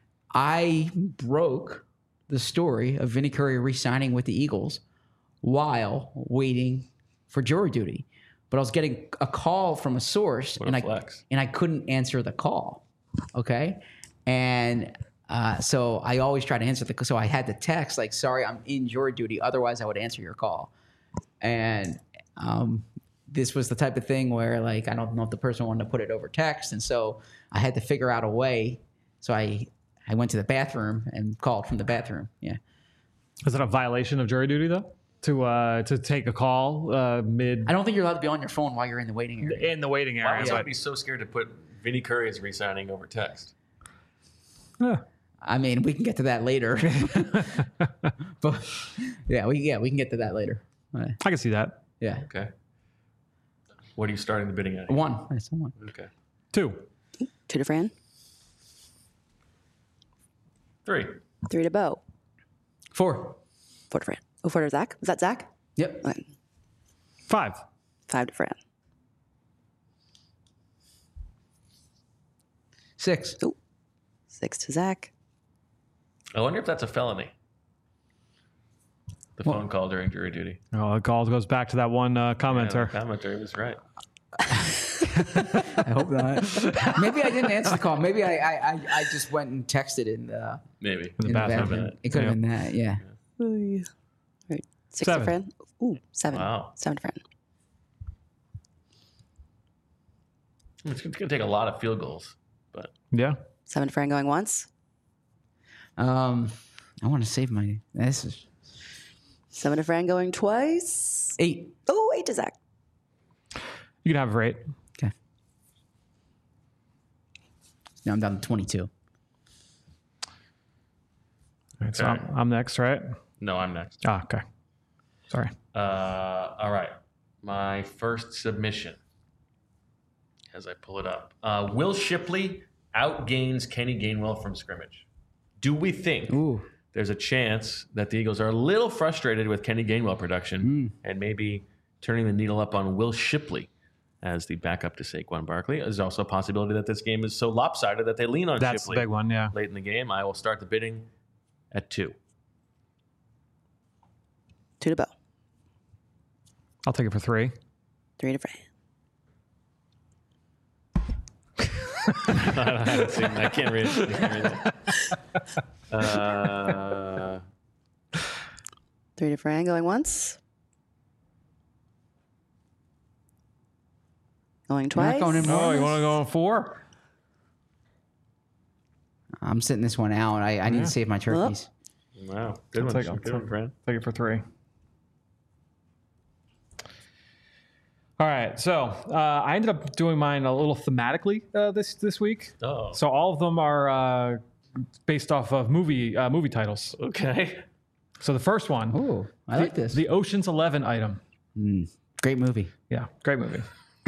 I broke the story of Vinny Curry re-signing with the Eagles while waiting for jury duty, but I was getting a call from a source, What and a I flex. and I couldn't answer the call. Okay, and uh, so I always try to answer the. So I had to text like, "Sorry, I'm in jury duty. Otherwise, I would answer your call." And um, this was the type of thing where, like, I don't know if the person wanted to put it over text, and so I had to figure out a way. So I I went to the bathroom and called from the bathroom. Yeah. Is it a violation of jury duty though? To uh, to take a call uh, mid I don't think you're allowed to be on your phone while you're in the waiting area. in the waiting Why area. would but- someone be so scared to put Vinny Curry as resigning over text? Yeah. I mean, we can get to that later. But yeah, we yeah we can get to that later. Uh, I can see that. yeah. Okay. What are you starting the bidding at? One. That's one. Okay. Two. Two to Fran, Three. three to Bo, Four. four to Fran. Oh, four to Zach. Was that Zach? Yep. Okay. Five. Five to Fran. Six. Oh, six to Zach. I wonder if that's a felony. The phone call during jury duty. Oh, the call goes back to that one uh, Yeah, commenter. the commenter was right. I hope not. Maybe I didn't answer the call. Maybe I I, I, I just went and texted in the, Maybe. the in the bathroom. bathroom. It could have Yep. been that. Yeah. All right. Six Seven. to Fran. Ooh, seven. Wow. Seven to Fran. It's going to take a lot of field goals, but Yeah. Seven to Fran going once. Um, I want to save my. This is Seven to Fran going twice. eight. Oh, eight to Zach. You can have it right. Okay. Now I'm down to twenty-two. All right, so Okay. I'm, I'm next, right? no, I'm next. Ah, okay. Sorry. Uh, all right. My first submission, as I pull it up. Uh, Will Shipley outgains Kenny Gainwell from scrimmage. Do we think Ooh. there's a chance that the Eagles are a little frustrated with Kenny Gainwell production and maybe turning the needle up on Will Shipley as the backup to Saquon Barkley? There's also a possibility that this game is so lopsided that they lean on That's Shipley the big one, yeah. late in the game. I will start the bidding at two. Two to Bo. I'll take it for three. Three to Fran. I haven't seen that. I can't read it. I can't read it. Uh, Three to Fran going once. Going You're twice. not going in more? Oh, you want to go on four? I'm sitting this one out. I, I need to save my turkeys. wow. Good I'll one. take- I'll Good one, take- Fran. Take it for three. All right, so uh, I ended up doing mine a little thematically uh, this this week. Oh. So all of them are uh, based off of movie uh, movie titles. Okay. So the first one, Ooh, I like this. the Ocean's Eleven item. Great movie. Yeah, great movie.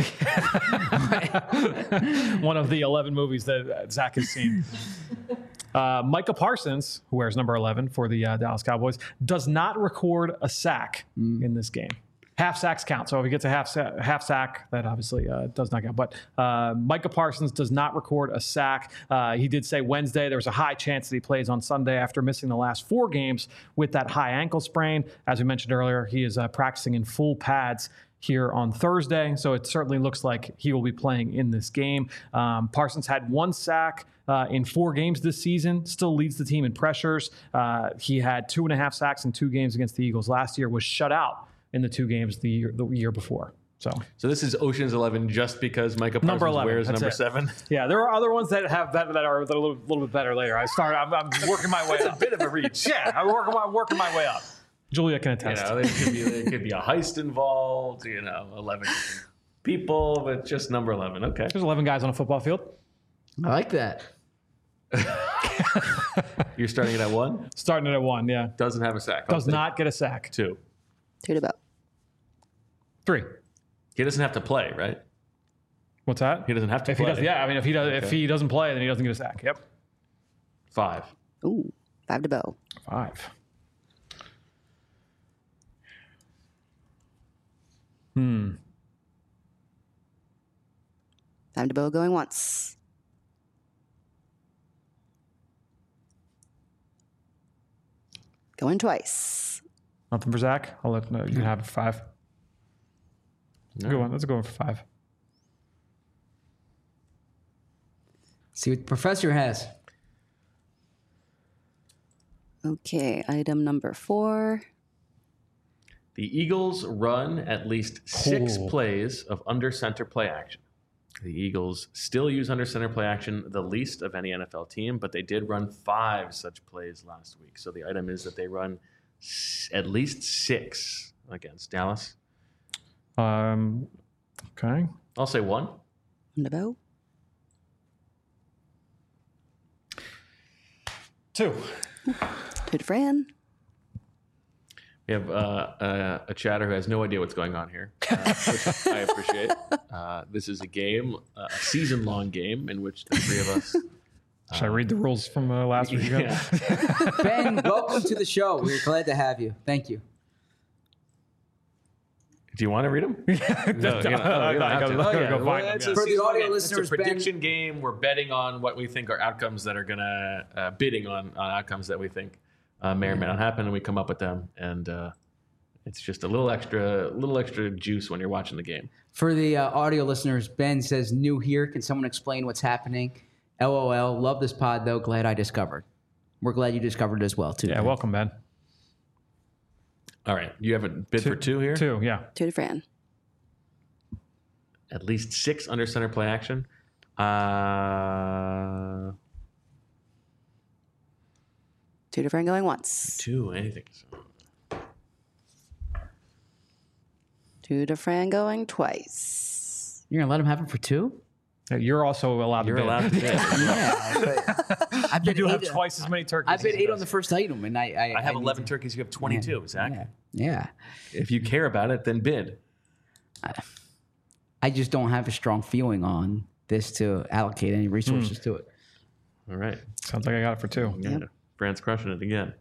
One of the eleven movies that Zach has seen. Uh, Micah Parsons, who wears number eleven for the uh, Dallas Cowboys, does not record a sack in this game. Half sacks count. So if he gets a half sa- half sack, that obviously uh, does not count. But uh, Micah Parsons does not record a sack. Uh, he did say Wednesday there was a high chance that he plays on Sunday after missing the last four games with that high ankle sprain. As we mentioned earlier, he is uh, practicing in full pads here on Thursday. So it certainly looks like he will be playing in this game. Um, Parsons had one sack uh, in four games this season, still leads the team in pressures. Uh, he had two and a half sacks in two games against the Eagles last year, was shut out in the two games the year, the year before. So, So this is Ocean's Eleven just because Micah Parsons Number eleven, wears that's number it. seven. yeah, there are other ones that have that, that are a little, little bit better later. I started, I'm, I'm working my way It's a up. bit of a reach. Yeah, I'm working my, working my way up. Julia can You attest. know, there could be there could be a heist involved. You know, eleven people, but just number eleven. Okay. There's eleven guys on a football field. I like that. You're starting it at one. Starting it at one, yeah. Doesn't have a sack. I'll Does take not get a sack. two. Two to Bo. Three. He doesn't have to play, right? What's that? He doesn't have to If play. he does, yeah. I mean, if he does, if Okay. he doesn't play, then he doesn't get a sack. Yep. Five. Ooh, five to Bo. Five. Hmm. Five to Bo going once. Going twice. Nothing for Zach. I'll let no, you can have five. Good one. Let's go in for five. See what the professor has. Okay, item number four. The Eagles run at least six Cool. plays of under center play action. The Eagles still use under center play action the least of any N F L team, but they did run five such plays last week. So the item is that they run s- at least six against Dallas. Um. Okay. I'll say one. One to Bo. Two. Two to Fran. We have uh, uh, a chatter who has no idea what's going on here, uh, which I appreciate. Uh, this is a game, uh, a season-long game in which the three of us. Should I read the rules from uh, last week? again? Yeah. Ben, welcome to the show. We're glad to have you. Thank you. Do you want to read them? No, you don't, no, you don't have to. Let's Oh, yeah. go find Well, them, it's yeah. a For the season-long audio game. listeners, it's a Ben- prediction game. We're betting on what we think are outcomes that are gonna uh, bidding on, on outcomes that we think uh, may or may not happen, and we come up with them. And uh, it's just a little extra, little extra juice when you're watching the game. For the uh, audio listeners, Ben says, new here. Can someone explain what's happening? LOL. Love this pod, though. Glad I discovered. We're glad you discovered it as well, too. Yeah. Ben. Welcome, Ben. All right, you have a bid for two here. Two. Yeah. Two to Fran. At least six under center play action. Uh, Two to Fran going once. two, anything. Two to Fran going twice. You're gonna let him have it for two? You're also allowed You're to bid. allowed to bid. Yeah. But I've You bid do have eight- twice as many turkeys. I bid as he eight on does. the first item, and I I, I have need eleven to- turkeys. You have twenty-two, Zach. Yeah. Yeah. If you care about it, then bid. I just don't have a strong feeling on this to allocate any resources to it. All right. Sounds like I got it for two. Yeah. Brand's crushing it again.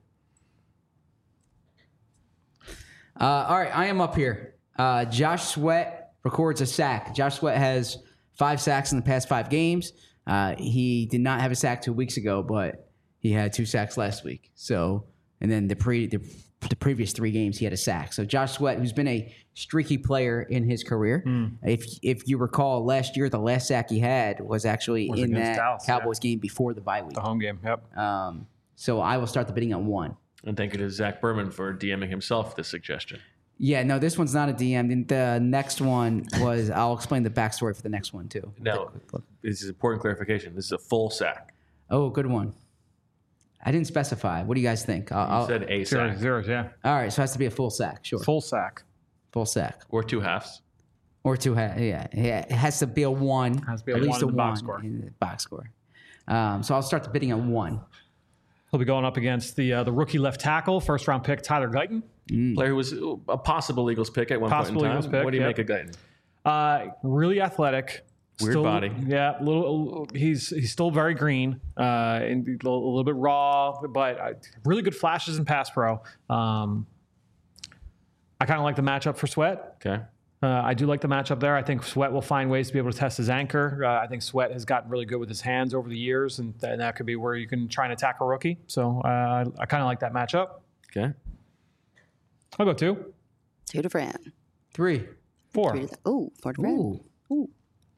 Uh, all right, I am up here. Uh, Josh Sweat records a sack. Josh Sweat has five sacks in the past five games. Uh, he did not have a sack two weeks ago, but he had two sacks last week. So, and then the pre the, the previous three games he had a sack. So Josh Sweat, who's been a streaky player in his career, if if you recall, last year the last sack he had was actually Was in against that Dallas, Cowboys game before the bye week. The home game. Yep. Um, so I will start the bidding on one. And thank you to Zach Berman for DMing himself this suggestion. Yeah, no, this one's not a D M. Then the next one was, I'll explain the backstory for the next one too. Now, this is important clarification. This is a full sack. Oh, good one. I didn't specify. What do you guys think? I'll, You I'll- said a Zeros, sack zeros, yeah. all right, so it has to be a full sack, sure. Full sack. Full sack. or two halves. Or two, ha- yeah, yeah. It has to be a one. Has to be a at one least in a the one box score. in the box score. Um, so I'll start the bidding on one. He'll be going up against the uh, the rookie left tackle, first round pick Tyler Guyton. Player who was a possible Eagles pick at one Possible point in time. Eagles pick, what do you yep. make of Guyton? Uh, really athletic. Weird body. Yeah, a little. He's he's still very green uh, and a little, a little bit raw, but uh, really good flashes in pass pro. Um, I kind of like the matchup for Sweat. Okay. Uh, I do like the matchup there. I think Sweat will find ways to be able to test his anchor. Uh, I think Sweat has gotten really good with his hands over the years, and, and that could be where you can try and attack a rookie. So uh, I kind of like that matchup. Okay. I'll go two, Two to Fran. Three. four. Three to the, ooh, four to Fran. Ooh. Ooh.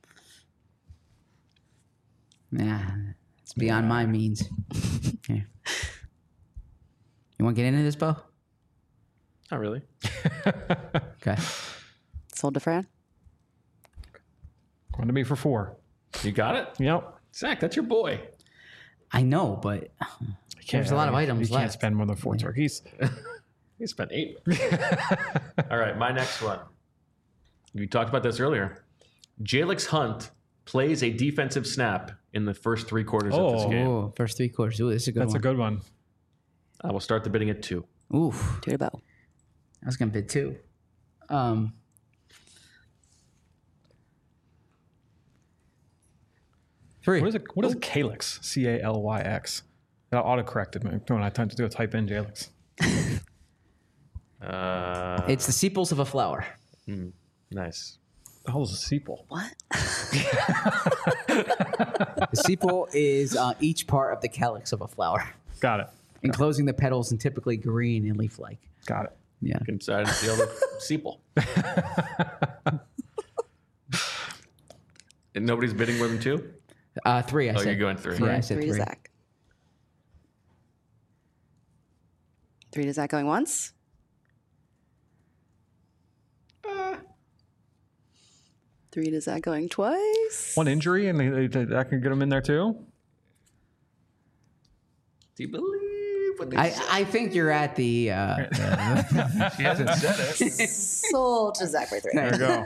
Nah, it's beyond my means. Here. You want to get into this, Bo? Not really. Okay. Sold to Fran. Going to be for four. You got it? Yep. Zach, that's your boy. I know, but there's a lot of items You can't left. spend more than four turkeys. He spent eight. All right, my next one. We talked about this earlier. Jalix Hunt plays a defensive snap in the first three quarters of this Oh. game. Oh, first three quarters. Ooh, this is a good That's one. a good one. I will start the bidding at two. Oof. Two to Bo. I was gonna bid two. Um, three. What is it? What is Calyx? C A L Y X. That auto corrected me when I tried to do a type in Jalix. Uh, It's the sepals of a flower. nice. The hell is a sepal? What? The sepal is uh, each part of the calyx of a flower, Got it. enclosing the petals and typically green and leaf-like. Got it. Yeah. Inside and the other sepal. And nobody's bidding more than two? Uh, three. I Oh, said. you're going three. Yeah, I said Three three. to Zach. Three to Zach going once. Three to Zach going twice. One injury, and they, they, that can get him in there too. Do you believe what they I, said? I think you're at the. Uh, the She hasn't said it. Sold to Zach for three. There you go.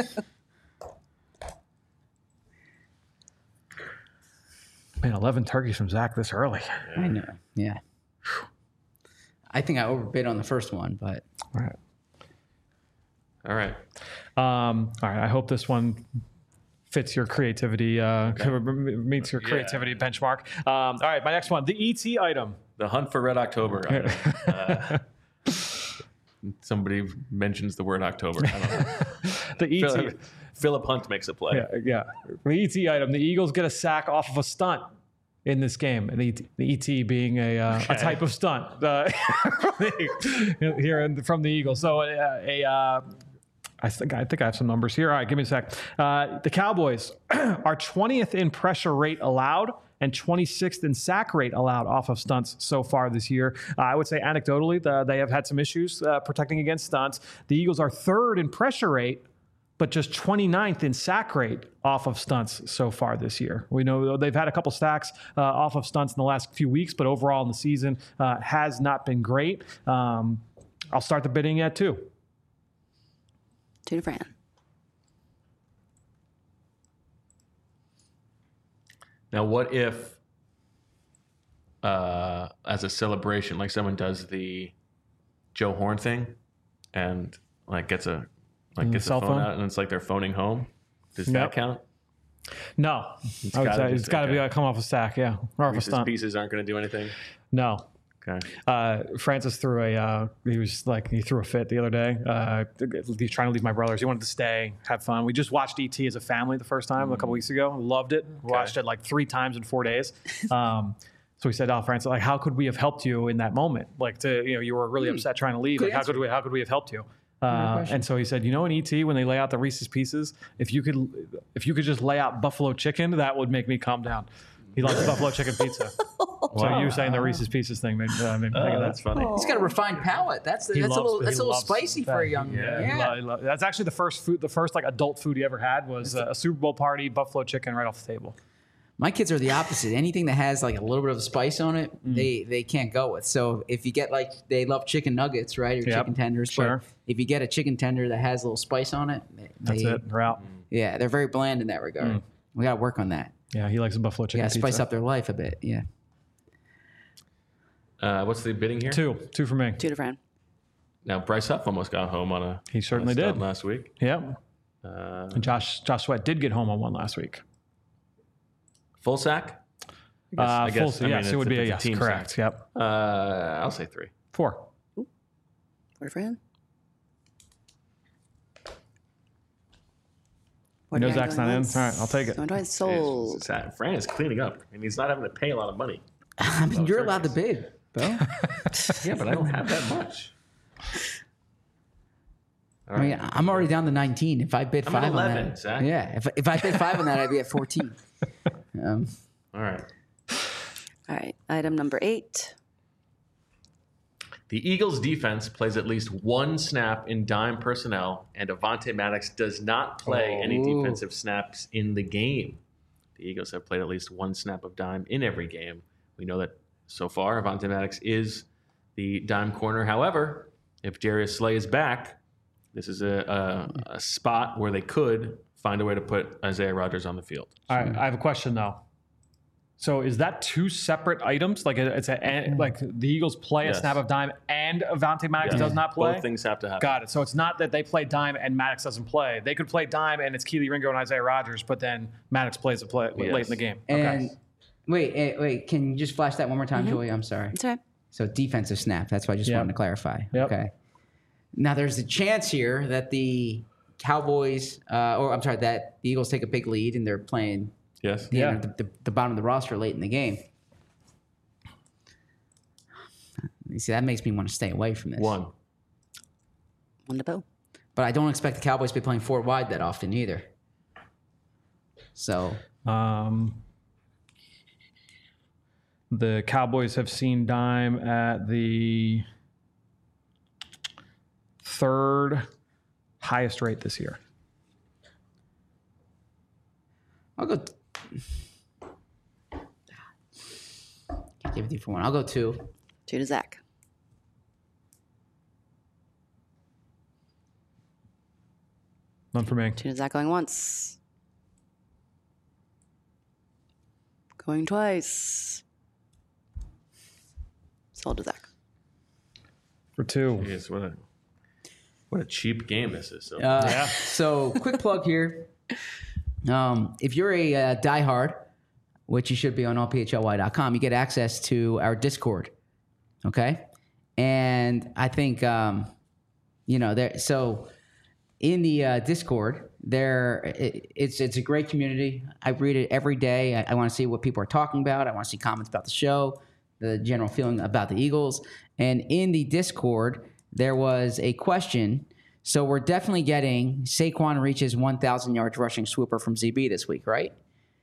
Man, eleven turkeys from Zach this early. I know. Yeah. I think I overbid on the first one, but All right. All right. Um, all right. I hope this one fits your creativity, uh, meets your creativity benchmark. Um, all right. My next one, the E T item. The Hunt for Red October. item. Uh, somebody mentions the word October. I don't know. The E T. Philip, Philip Hunt makes a play. Yeah, yeah. The E T item. The Eagles get a sack off of a stunt in this game. And the E T, the E T being a uh, a type of stunt uh, here in, from the Eagles. So uh, a. Uh, I think I think I have some numbers here. All right, give me a sec. Uh, the Cowboys are twentieth in pressure rate allowed and twenty-sixth in sack rate allowed off of stunts so far this year. Uh, I would say anecdotally, the, they have had some issues uh, protecting against stunts. The Eagles are third in pressure rate, but just twenty-ninth in sack rate off of stunts so far this year. We know they've had a couple sacks uh, off of stunts in the last few weeks, but overall in the season uh, has not been great. Um, I'll start the bidding at two. Two to Fran. Now, what if, uh, as a celebration, like someone does the Joe Horn thing, and like gets a like gets a cell phone, phone? out, and it's like they're phoning home? Does Yep. that count? No, It's I would gotta say just- it's got to be okay. uh, come off a sack, yeah, or off a Reese's stunt. Pieces aren't going to do anything. No. Okay. Uh, Francis threw a, uh, he was like, he threw a fit the other day. Uh, he's trying to leave my brothers. He wanted to stay, have fun. We just watched E T as a family the first time a couple weeks ago. Loved it. Watched it like three times in four days. Um, so we said, oh, Francis, like, how could we have helped you in that moment? Like, to, you know, you were really upset trying to leave. Good Like, how answer. could we, how could we have helped you? Uh, and so he said, you know, in E T, when they lay out the Reese's Pieces, if you could, if you could just lay out buffalo chicken, that would make me calm down. He likes buffalo chicken pizza. So you saying the Reese's Pieces thing made, uh, made me think Oh, of that. that's funny. He's got a refined palate. That's that's He a loves- little he that's a little loves spicy for a that. young Yeah, man. he lo- he lo- that's actually the first food, the first like adult food he ever had was uh, a Super Bowl party, buffalo chicken right off the table. My kids are the opposite. Anything that has like a little bit of spice on it, Mm. they they can't go with. So if you get like they love chicken nuggets, right, or Yep, chicken tenders, sure. but if you get a chicken tender that has a little spice on it, they, That's they- it. We're out. Yeah, they're very bland in that regard. Mm. We got to work on that. Yeah, he likes a buffalo You chicken got to pizza. spice up their life a bit. Yeah. Uh, what's the bidding here? Two, two for me. Two to Fran. Now, Bryce Huff almost got home on a. He certainly on a stunt did. last week. Yep. Uh, And Josh Josh Sweat did get home on one last week. full sack. I Uh, I full, I mean, yes, it's it would a- be a it's yes. team Correct. sack. Yep. Uh, I'll say three. Four. Four to Fran. You know Zach's not in. All right, I'll take it. Going twice. It's- Sold. it's- it's- Fran is cleaning up, and he's not having to pay a lot of money. I mean, Oh, you're sure allowed to is. bid, Bo. Yeah, but I don't have that much. All I mean, right. I'm already down to nineteen. If I bid I'm five at on eleven, that, Zach. yeah. If if I bid five on that, I'd be at fourteen. Um, All right. All right. Item number eight. The Eagles' defense plays at least one snap in dime personnel, and Avonte Maddox does not play any Oh. defensive snaps in the game. The Eagles have played at least one snap of dime in every game. We know that so far, Avonte Maddox is the dime corner. However, if Darius Slay is back, this is a, a, a spot where they could find a way to put Isaiah Rodgers on the field. All right, I have a question though. So is that two separate items? Like it's a like the Eagles play Yes. a snap of dime and Avonte Maddox Yes. does not play? Both things have to happen. Got it. So it's not that they play dime and Maddox doesn't play. They could play dime and it's Keely Ringo and Isaiah Rodgers, but then Maddox plays a play late Yes. in the game. and Okay. wait, eh, wait, can you just flash that one more time, Joey? I'm sorry. That's right. So defensive snap. That's what I just Yep. wanted to clarify. Yep. Okay. Now there's a chance here that the Cowboys, uh, or I'm sorry, that the Eagles take a big lead and they're playing Yes. the, Yeah. the, the, the bottom of the roster late in the game. You see, that makes me want to stay away from this. One. One to Bo. But I don't expect the Cowboys to be playing four wide that often either. So Um, the Cowboys have seen dime at the third highest rate this year. I'll go. Can't give it to you for one. I'll go two. Two to Zach. None for me. Two to Zach going once. Going twice. Sold to Zach. For two. Jeez, what a what a cheap game this is. So. Uh, Yeah. So, quick plug here. Um, if you're a uh, diehard, which you should be on all p h l y dot com, you get access to our Discord. Okay, and I think um, you know there. So, in the uh, Discord, there it, it's it's a great community. I read it every day. I, I want to see what people are talking about. I want to see comments about the show, the general feeling about the Eagles. And in the Discord, there was a question. So we're definitely getting Saquon reaches one thousand yards rushing swooper from Z B this week, right?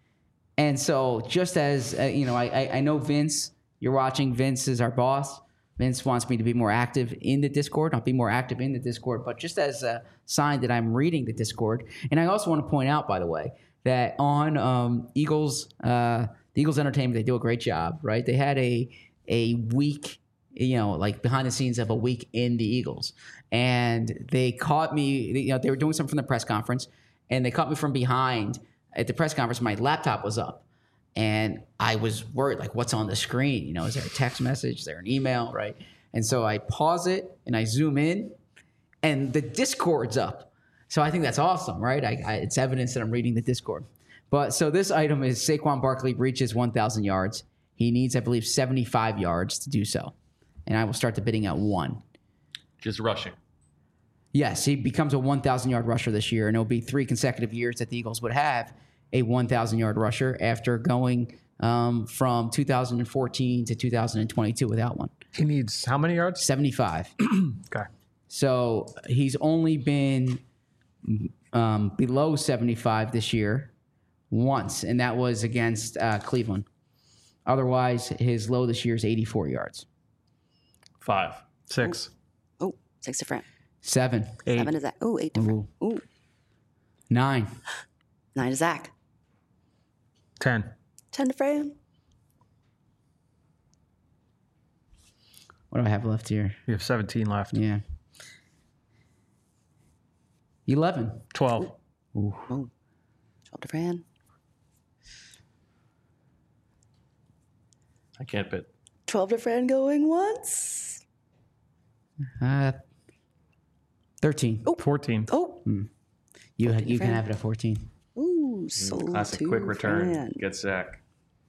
And so just as, uh, you know, I, I, I know Vince, you're watching. Vince is our boss. Vince wants me to be more active in the Discord. I'll be more active in the Discord, but just as a sign that I'm reading the Discord. And I also want to point out, by the way, that on um, Eagles, uh, the Eagles Entertainment, they do a great job, right? They had a a week, you know, like behind the scenes of a week in the Eagles, and they caught me. You know, they were doing something from the press conference, and they caught me from behind at the press conference. My laptop was up. And I was worried, like, what's on the screen? You know, is there a text message? Is there an email, right? And so I pause it and I zoom in, and the Discord's up. So I think that's awesome, right? I, I, it's evidence that I'm reading the Discord. But so this item is Saquon Barkley reaches one thousand yards. He needs, I believe, seventy-five yards to do so. And I will start the bidding at one. Just rushing. Yes, he becomes a one thousand yard rusher this year, and it'll be three consecutive years that the Eagles would have a one thousand yard rusher after going um, from two thousand fourteen to two thousand twenty-two without one. He needs how many yards? seventy-five. Okay. So he's only been um, below seventy-five this year once, and that was against uh, Cleveland. Otherwise, his low this year is eighty-four yards. Five. Six. Oh, six to Fran. Seven. Eight. Seven to Zach. Oh, eight to Fran. Ooh. Ooh, Nine. nine to Zach. Ten. Ten to Fran. What do I have left here? You have seventeen left. Yeah. eleven. Twelve. Ooh. Oh, twelve to Fran. I can't bid. twelve to Fran going once. Uh, thirteen. Fourteen. Oh, You, fourteen you can Fran. have it at fourteen. ooh, sold Classic to quick return. Fran. Get Zach.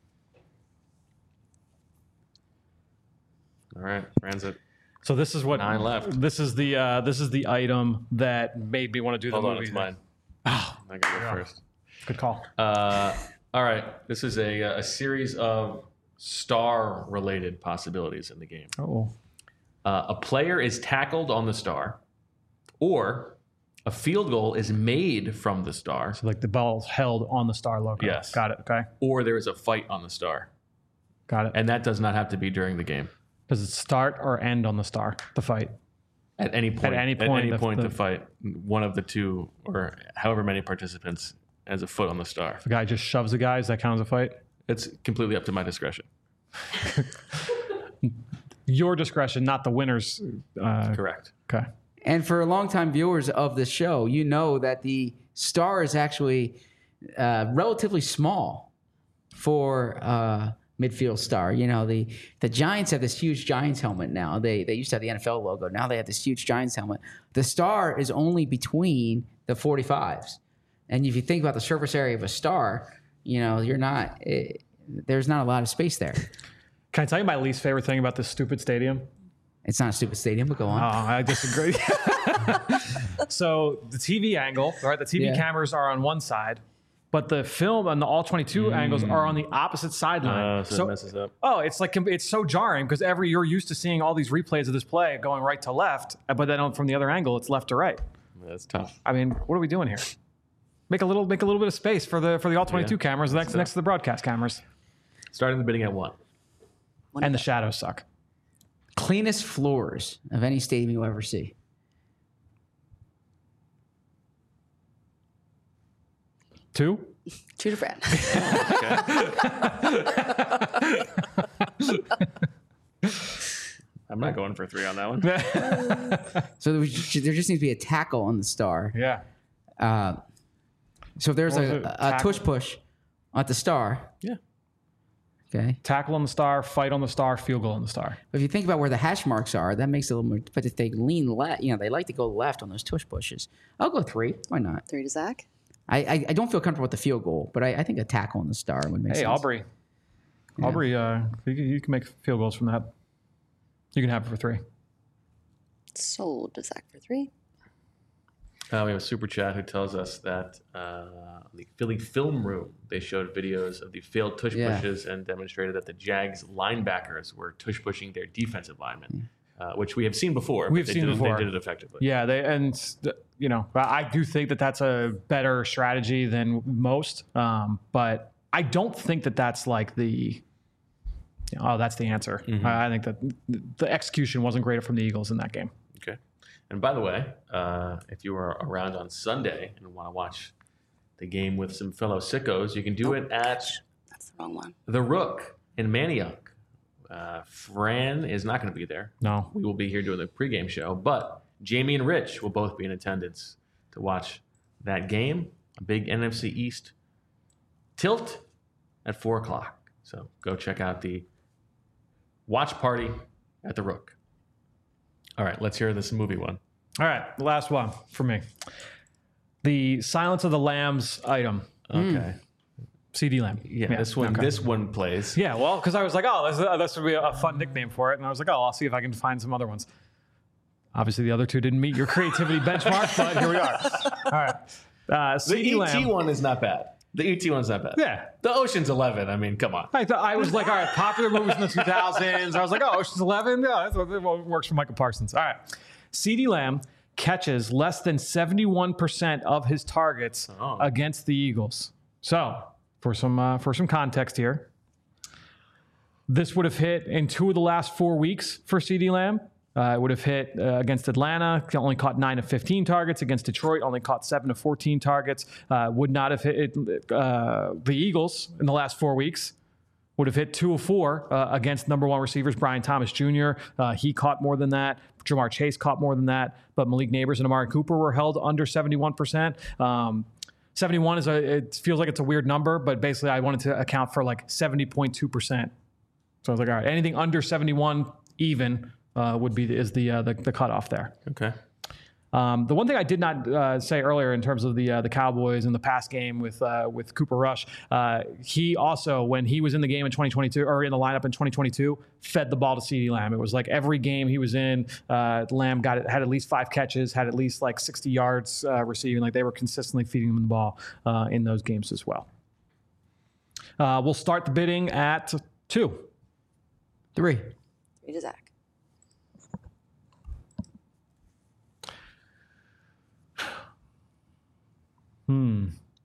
All right, Fran's at So this is what Nine left. This is the uh, this is the item that made me want to do the Hold on, movie. it's mine. Oh, I gotta go Yeah. first. good call. Uh, all right, this is a a series of star-related possibilities in the game. Oh, Uh, a player is tackled on the star, or a field goal is made from the star, so like the ball's held on the star logo. Yes. Got it. Okay. or there is a fight on the star, Got it. and that does not have to be during the game. Does it start or end on the star? The fight. At any point, any at point, any the- point, the- the fight, one of the two or however many participants has a foot on the star. The guy just shoves the guy. Does that count as a fight? It's completely up to my discretion. Your discretion, not the winner's. Uh, Correct. okay. And for longtime viewers of the show, you know that the star is actually uh, relatively small for uh, midfield star. You know, the the Giants have this huge Giants helmet now. They they used to have the N F L logo. Now they have this huge Giants helmet. The star is only between the forty-fives. And if you think about the surface area of a star, you know, you're not. It, there's not a lot of space there. Can I tell you my least favorite thing about this stupid stadium? It's not a stupid stadium, but go Oh, on. I disagree. So the T V angle, right? The T V Yeah. cameras are on one side, but the film and the all twenty-two angles are on the opposite sideline. Uh, so, it messes up. oh, it's like it's so jarring because every you're used to seeing all these replays of this play going right to left, but then from the other angle, it's left to right. That's tough. I mean, what are we doing here? Make a little, make a little bit of space for the for the all twenty-two Yeah. cameras next So- next to the broadcast cameras, Starting the bidding at one. One and the to shadows suck. Cleanest floors of any stadium you'll ever see. Two. Two to Fran. I'm not going for three on that one. So there, was- there just needs to be a tackle on the star. Yeah. Uh, so if there's What was a, it? a Tackle? tush push at the star, Yeah. okay. Tackle on the star, fight on the star, field goal on the star. But if you think about where the hash marks are, that makes it a little more. But if they lean left, you know, they like to go left on those tush pushes. I'll go three. Why not? Three to Zach. I I, I don't feel comfortable with the field goal, but I, I think a tackle on the star would make Hey, sense. Aubrey. Aubrey, uh, you, can- you can make field goals from that. You can have it for three. Sold to Zach for three. Uh, we have a super chat who tells us that uh, the Philly film room, they showed videos of the failed tush Yeah. pushes and demonstrated that the Jags linebackers were tush pushing their defensive linemen, uh, which we have seen before. but We've they seen did, before. They did it effectively. Yeah, they and you know I do think that that's a better strategy than most, um, but I don't think that that's like the Oh, that's the answer. Mm-hmm. I, I think that the execution wasn't great from the Eagles in that game. Okay. And by the way, uh, if you were around on Sunday and want to watch the game with some fellow sickos, you can do oh, it at that's the wrong one. The Rook in Manayunk. Uh, Fran is not going to be there. No. We will be here doing the pregame show, but Jamie and Rich will both be in attendance to watch that game. A big N F C East tilt at four o'clock. So go check out the watch party at the Rook. All right, let's hear this movie one. All right, the last one for me. The Silence of the Lambs item. Okay. Mm. C D Lamb. Yeah, yeah, this one. Okay. This one plays. Yeah, well, because I was like, oh, this, uh, this would be a fun nickname for it, and I was like, oh, I'll see if I can find some other ones. Obviously, the other two didn't meet your creativity benchmark, but here we are. All right. Uh, the E T one is not bad. The E T one's not bad. Yeah. The Ocean's Eleven. I mean, come on. I thought I was like, all right, popular movies in the two thousands. I was like, oh, Ocean's Eleven. Yeah, that's what works for Michael Parsons. All right. C D Lamb catches less than seventy-one percent of his targets oh. against the Eagles. So, for some uh, for some context here, this would have hit in two of the last four weeks for C D Lamb. Uh, it would have hit uh, against Atlanta, only caught nine of fifteen targets. Against Detroit, only caught seven of fourteen targets. Uh, would not have hit uh, the Eagles in the last four weeks. Would have hit two of four uh, against number one receivers, Brian Thomas Junior Uh, he caught more than that. Jamar Chase caught more than that. But Malik Neighbors and Amari Cooper were held under seventy-one percent. Um, seventy-one is a, it feels like it's a weird number, but basically I wanted to account for like seventy point two percent. So I was like, all right, anything under seventy-one even uh, would be is the, uh, the the cutoff there. Okay. Um, the one thing I did not uh, say earlier in terms of the uh, the Cowboys and the pass game with uh, with Cooper Rush, uh, he also, when he was in the game in twenty twenty-two or in the lineup in twenty twenty-two, fed the ball to CeeDee Lamb. It was like every game he was in, uh, Lamb got it, had at least five catches, had at least like sixty yards uh, receiving. Like they were consistently feeding him the ball uh, in those games as well. Uh, we'll start the bidding at two. Three. Three to Zach. Hmm.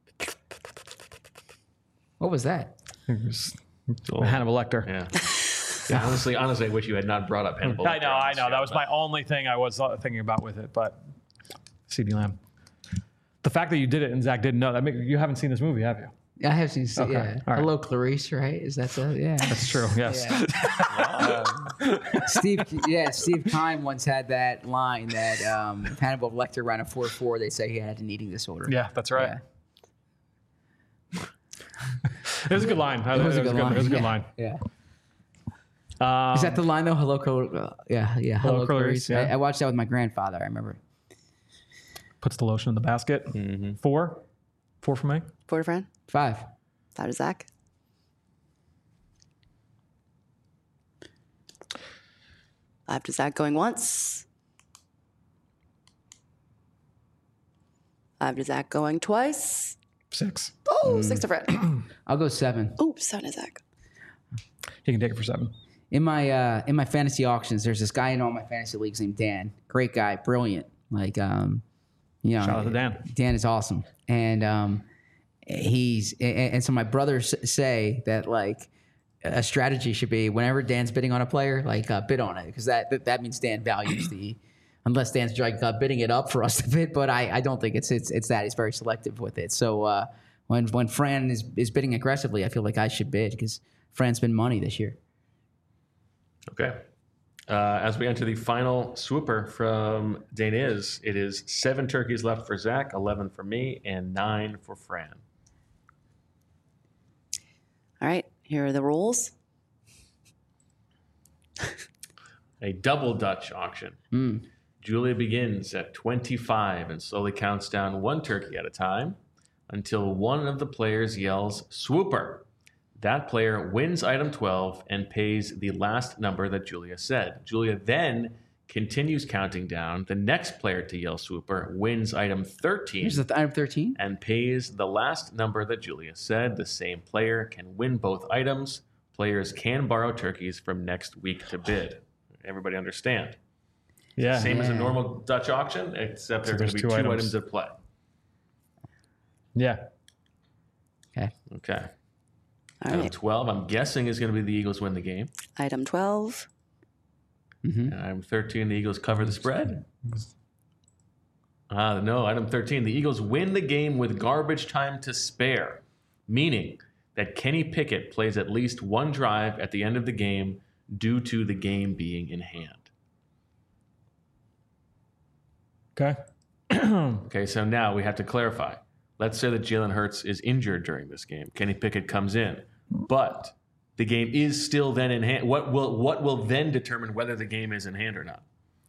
What was that? Oh. Hannibal Lecter. Yeah. yeah. Honestly, honestly, I wish you had not brought up Hannibal Lecter. I know, I know. That was my only thing I was thinking about with it, but CeeDee Lamb. The fact that you did it and Zach didn't know that, you haven't seen this movie, have you? I have seen. Okay. Yeah. Right. Hello, Clarice. Right? Is that the? Yeah. That's true. Yes. Yeah. um, Steve. Yeah. Steve Kime once had that line that um, Hannibal Lecter ran a four four. They say he had an eating disorder. Yeah, that's right. Yeah. It was a good line. It was a good line. It was a good yeah. line. Yeah. Um, Is that the line though? Hello, Cl- yeah, yeah. Hello, Hello Clarice. Clarice. Yeah. I, I watched that with my grandfather. I remember. Puts the lotion in the basket. Mm-hmm. Four. Four for me. Four to Fran. Five. Five to Zach. Five to Zach going once. Five to Zach going twice. Six. Oh, Mm. six to Fran. I'll go seven. Oh, seven to Zach. You can take it for seven. In my uh, in my fantasy auctions, there's this guy in all my fantasy leagues named Dan. Great guy, brilliant. Like, um, you know, Shout out to Dan. Dan is awesome, and um, he's and, and so my brothers say that like a strategy should be whenever Dan's bidding on a player, like uh, bid on it because that, that that means Dan values the. Unless Dan's like uh, bidding it up for us to bid, but I, I don't think it's it's it's that. He's very selective with it. So uh, when when Fran is, is bidding aggressively, I feel like I should bid because Fran's been money this year. Okay. Uh, as we enter the final swooper from Daniz, it is seven turkeys left for Zach, eleven for me, and nine for Fran. All right, here are the rules. A double Dutch auction. Mm. Julia begins at twenty-five and slowly counts down one turkey at a time until one of the players yells swooper. That player wins item twelve and pays the last number that Julia said. Julia then continues counting down. The next player to yell swooper wins item thirteen. Here's the th- item thirteen. And pays the last number that Julia said. The same player can win both items. Players can borrow turkeys from next week to bid. Everybody understand? Yeah. Same yeah. as a normal Dutch auction, except So there are going to be two two items. items. at play. Yeah. Okay. Okay. All Item right. twelve, I'm guessing, is going to be the Eagles win the game. Item twelve. Mm-hmm. And item thirteen, the Eagles cover the spread. Ah, no, item thirteen, the Eagles win the game with garbage time to spare, meaning that Kenny Pickett plays at least one drive at the end of the game due to the game being in hand. Okay. Okay, so now we have to clarify. Let's say that Jalen Hurts is injured during this game. Kenny Pickett comes in, but the game is still then in hand. What will what will then determine whether the game is in hand or not?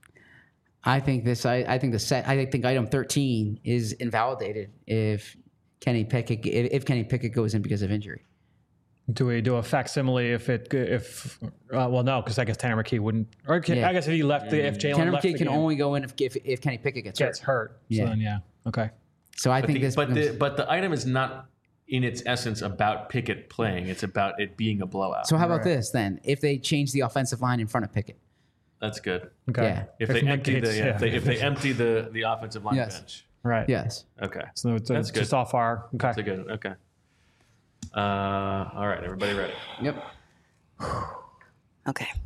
I think this. I, I think the set. I think item thirteen is invalidated if Kenny Pickett if, if Kenny Pickett goes in because of injury. Do we do a facsimile if it if uh, well no because I guess Tanner McKee wouldn't or can, Yeah. I guess if he left the if Jalen Tanner left McKee the can game, only go in if if, if Kenny Pickett gets, gets hurt. hurt. So Yeah. then yeah okay. So I But think the, this. but becomes- the but the item is not in its essence about Pickett playing. It's about it being a blowout. so how about this then? If they change the offensive line in front of Pickett, That's good. Okay. Yeah. If they empty the McKee's- yeah, if they if they empty the the offensive line Yes. bench. right yes. Okay. so it's, That's it's just good. off our okay That's a good. Okay. Uh, all right, everybody ready? Yep. Okay.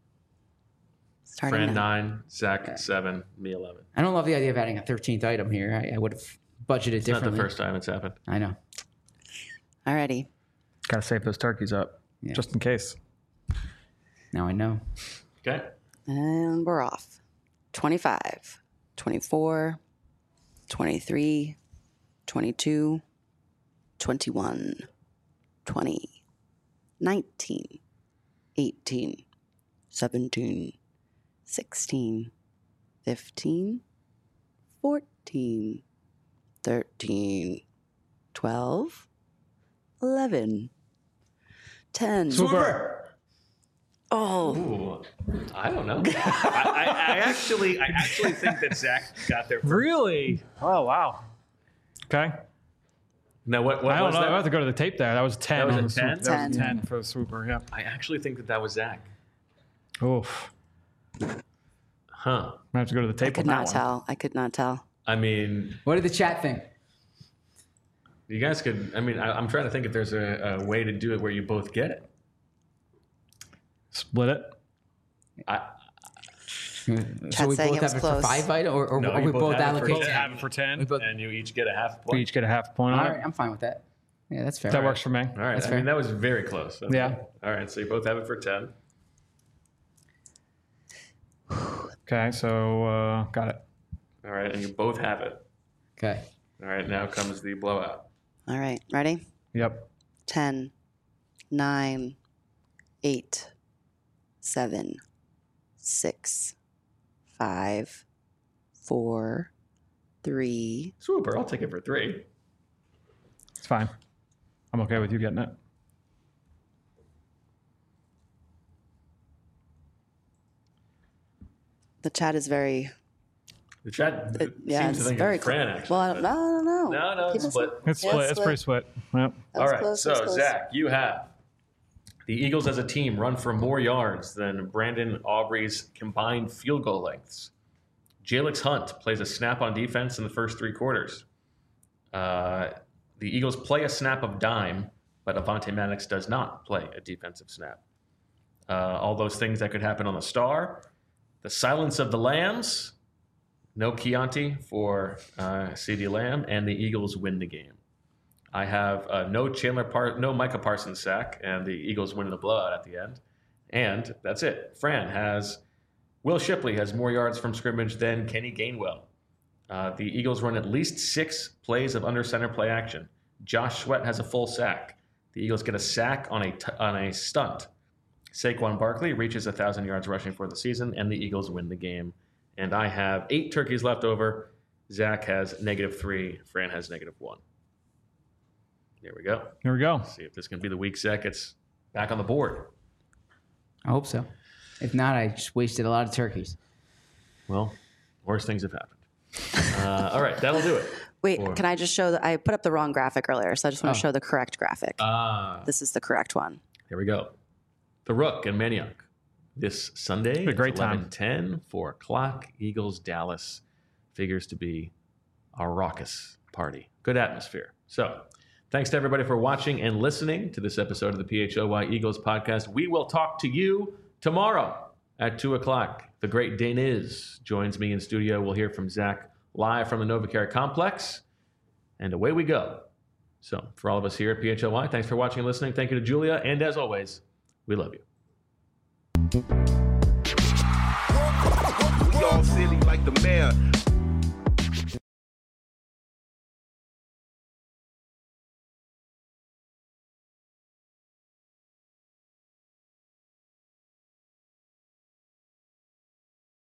Starting Fran now. nine, Zach seven, me eleven. I don't love the idea of adding a thirteenth item here. I, I would have budgeted It's not differently. the first time it's happened. I know. Alrighty. got to save those turkeys up Yeah. just in case. Now I know. Okay. And we're off. twenty-five, twenty-four, twenty-three, twenty-two, twenty-one, twenty, nineteen, eighteen, seventeen, sixteen, fifteen, fourteen, thirteen, twelve, eleven, ten. Super. Oh, Ooh, I don't know. I, I, I actually, I actually think that Zach got there. First. Really? Oh wow. Okay. Now, what, what I don't was know. I that? have to go to the tape there. That was ten. That was on a the ten? swoop- That was a ten. ten for the swooper. Yeah. I actually think that that was Zach. Oof. Huh. I have to go to the tape I could on that not one. tell. I could not tell. I mean, What did the chat think? you guys could. I mean, I, I'm trying to think if there's a, a way to do it where you both get it. Split it. I, So we saying both it was have it for close. five item, or, or, No, or you we both both have it for allocate ten. ten? Have it for ten. We both- and you each get a half We point. each get a half point All on right, it. I'm fine with that. Yeah, that's fair. That works for me. All right. That's I fair. mean, that was very close. That's Yeah. good. All right. So you both have it for ten. Okay, so uh, got it. All right, and you both have it. Okay. All right. Now comes the blowout. All right, ready? Yep. ten, nine, eight, seven, six, five, four, three, Super. I'll take it for three. It's fine. I'm okay with you getting it. The chat is very, The chat it, yeah, seems it's to think very it's Fran, close. actually. Well, I don't, no, I don't know. No, no, it's People split. say- It's Yeah, split. It's pretty split. Yep. that All was right, close, that was so close. Zach, you have the Eagles as a team run for more yards than Brandon Aubrey's combined field goal lengths. Jalix Hunt plays a snap on defense in the first three quarters. Uh, the Eagles play a snap of dime, but Avonte Maddox does not play a defensive snap. Uh, all those things that could happen on the star. The silence of the Lambs. No Chianti for uh, CeeDee Lamb, and the Eagles win the game. I have uh, no Chandler Par- no Micah Parsons sack, and the Eagles win the blowout at the end. And that's it. Fran has Will Shipley has more yards from scrimmage than Kenny Gainwell. Uh, the Eagles run at least six plays of under center play action. Josh Sweat has a full sack. The Eagles get a sack on a t- on a stunt. Saquon Barkley reaches one thousand yards rushing for the season, and the Eagles win the game. And I have eight turkeys left over. Zach has negative three. Fran has negative one. There we go. Here we go. See if this can be the week Zach gets back on the board. I hope so. If not, I just wasted a lot of turkeys. Well, worse things have happened. Uh, all right, that'll do it. Wait, Or- can I just show that I put up the wrong graphic earlier, so I just want Oh. to show the correct graphic. Ah, This is the correct one. here we go. The Rook and Maniac. This Sunday, a great time. eleven ten, four o'clock, Eagles, Dallas. Figures to be a raucous party. Good atmosphere. So, Thanks to everybody for watching and listening to this episode of the P H O Y Eagles podcast. We will talk to you tomorrow at two o'clock. The great Daniz joins me in studio. We'll hear from Zach live from the NovaCare Complex. And away we go. So for all of us here at P H O Y, thanks for watching and listening. Thank you to Julia. And as always, we love you. We all silly like the mayor.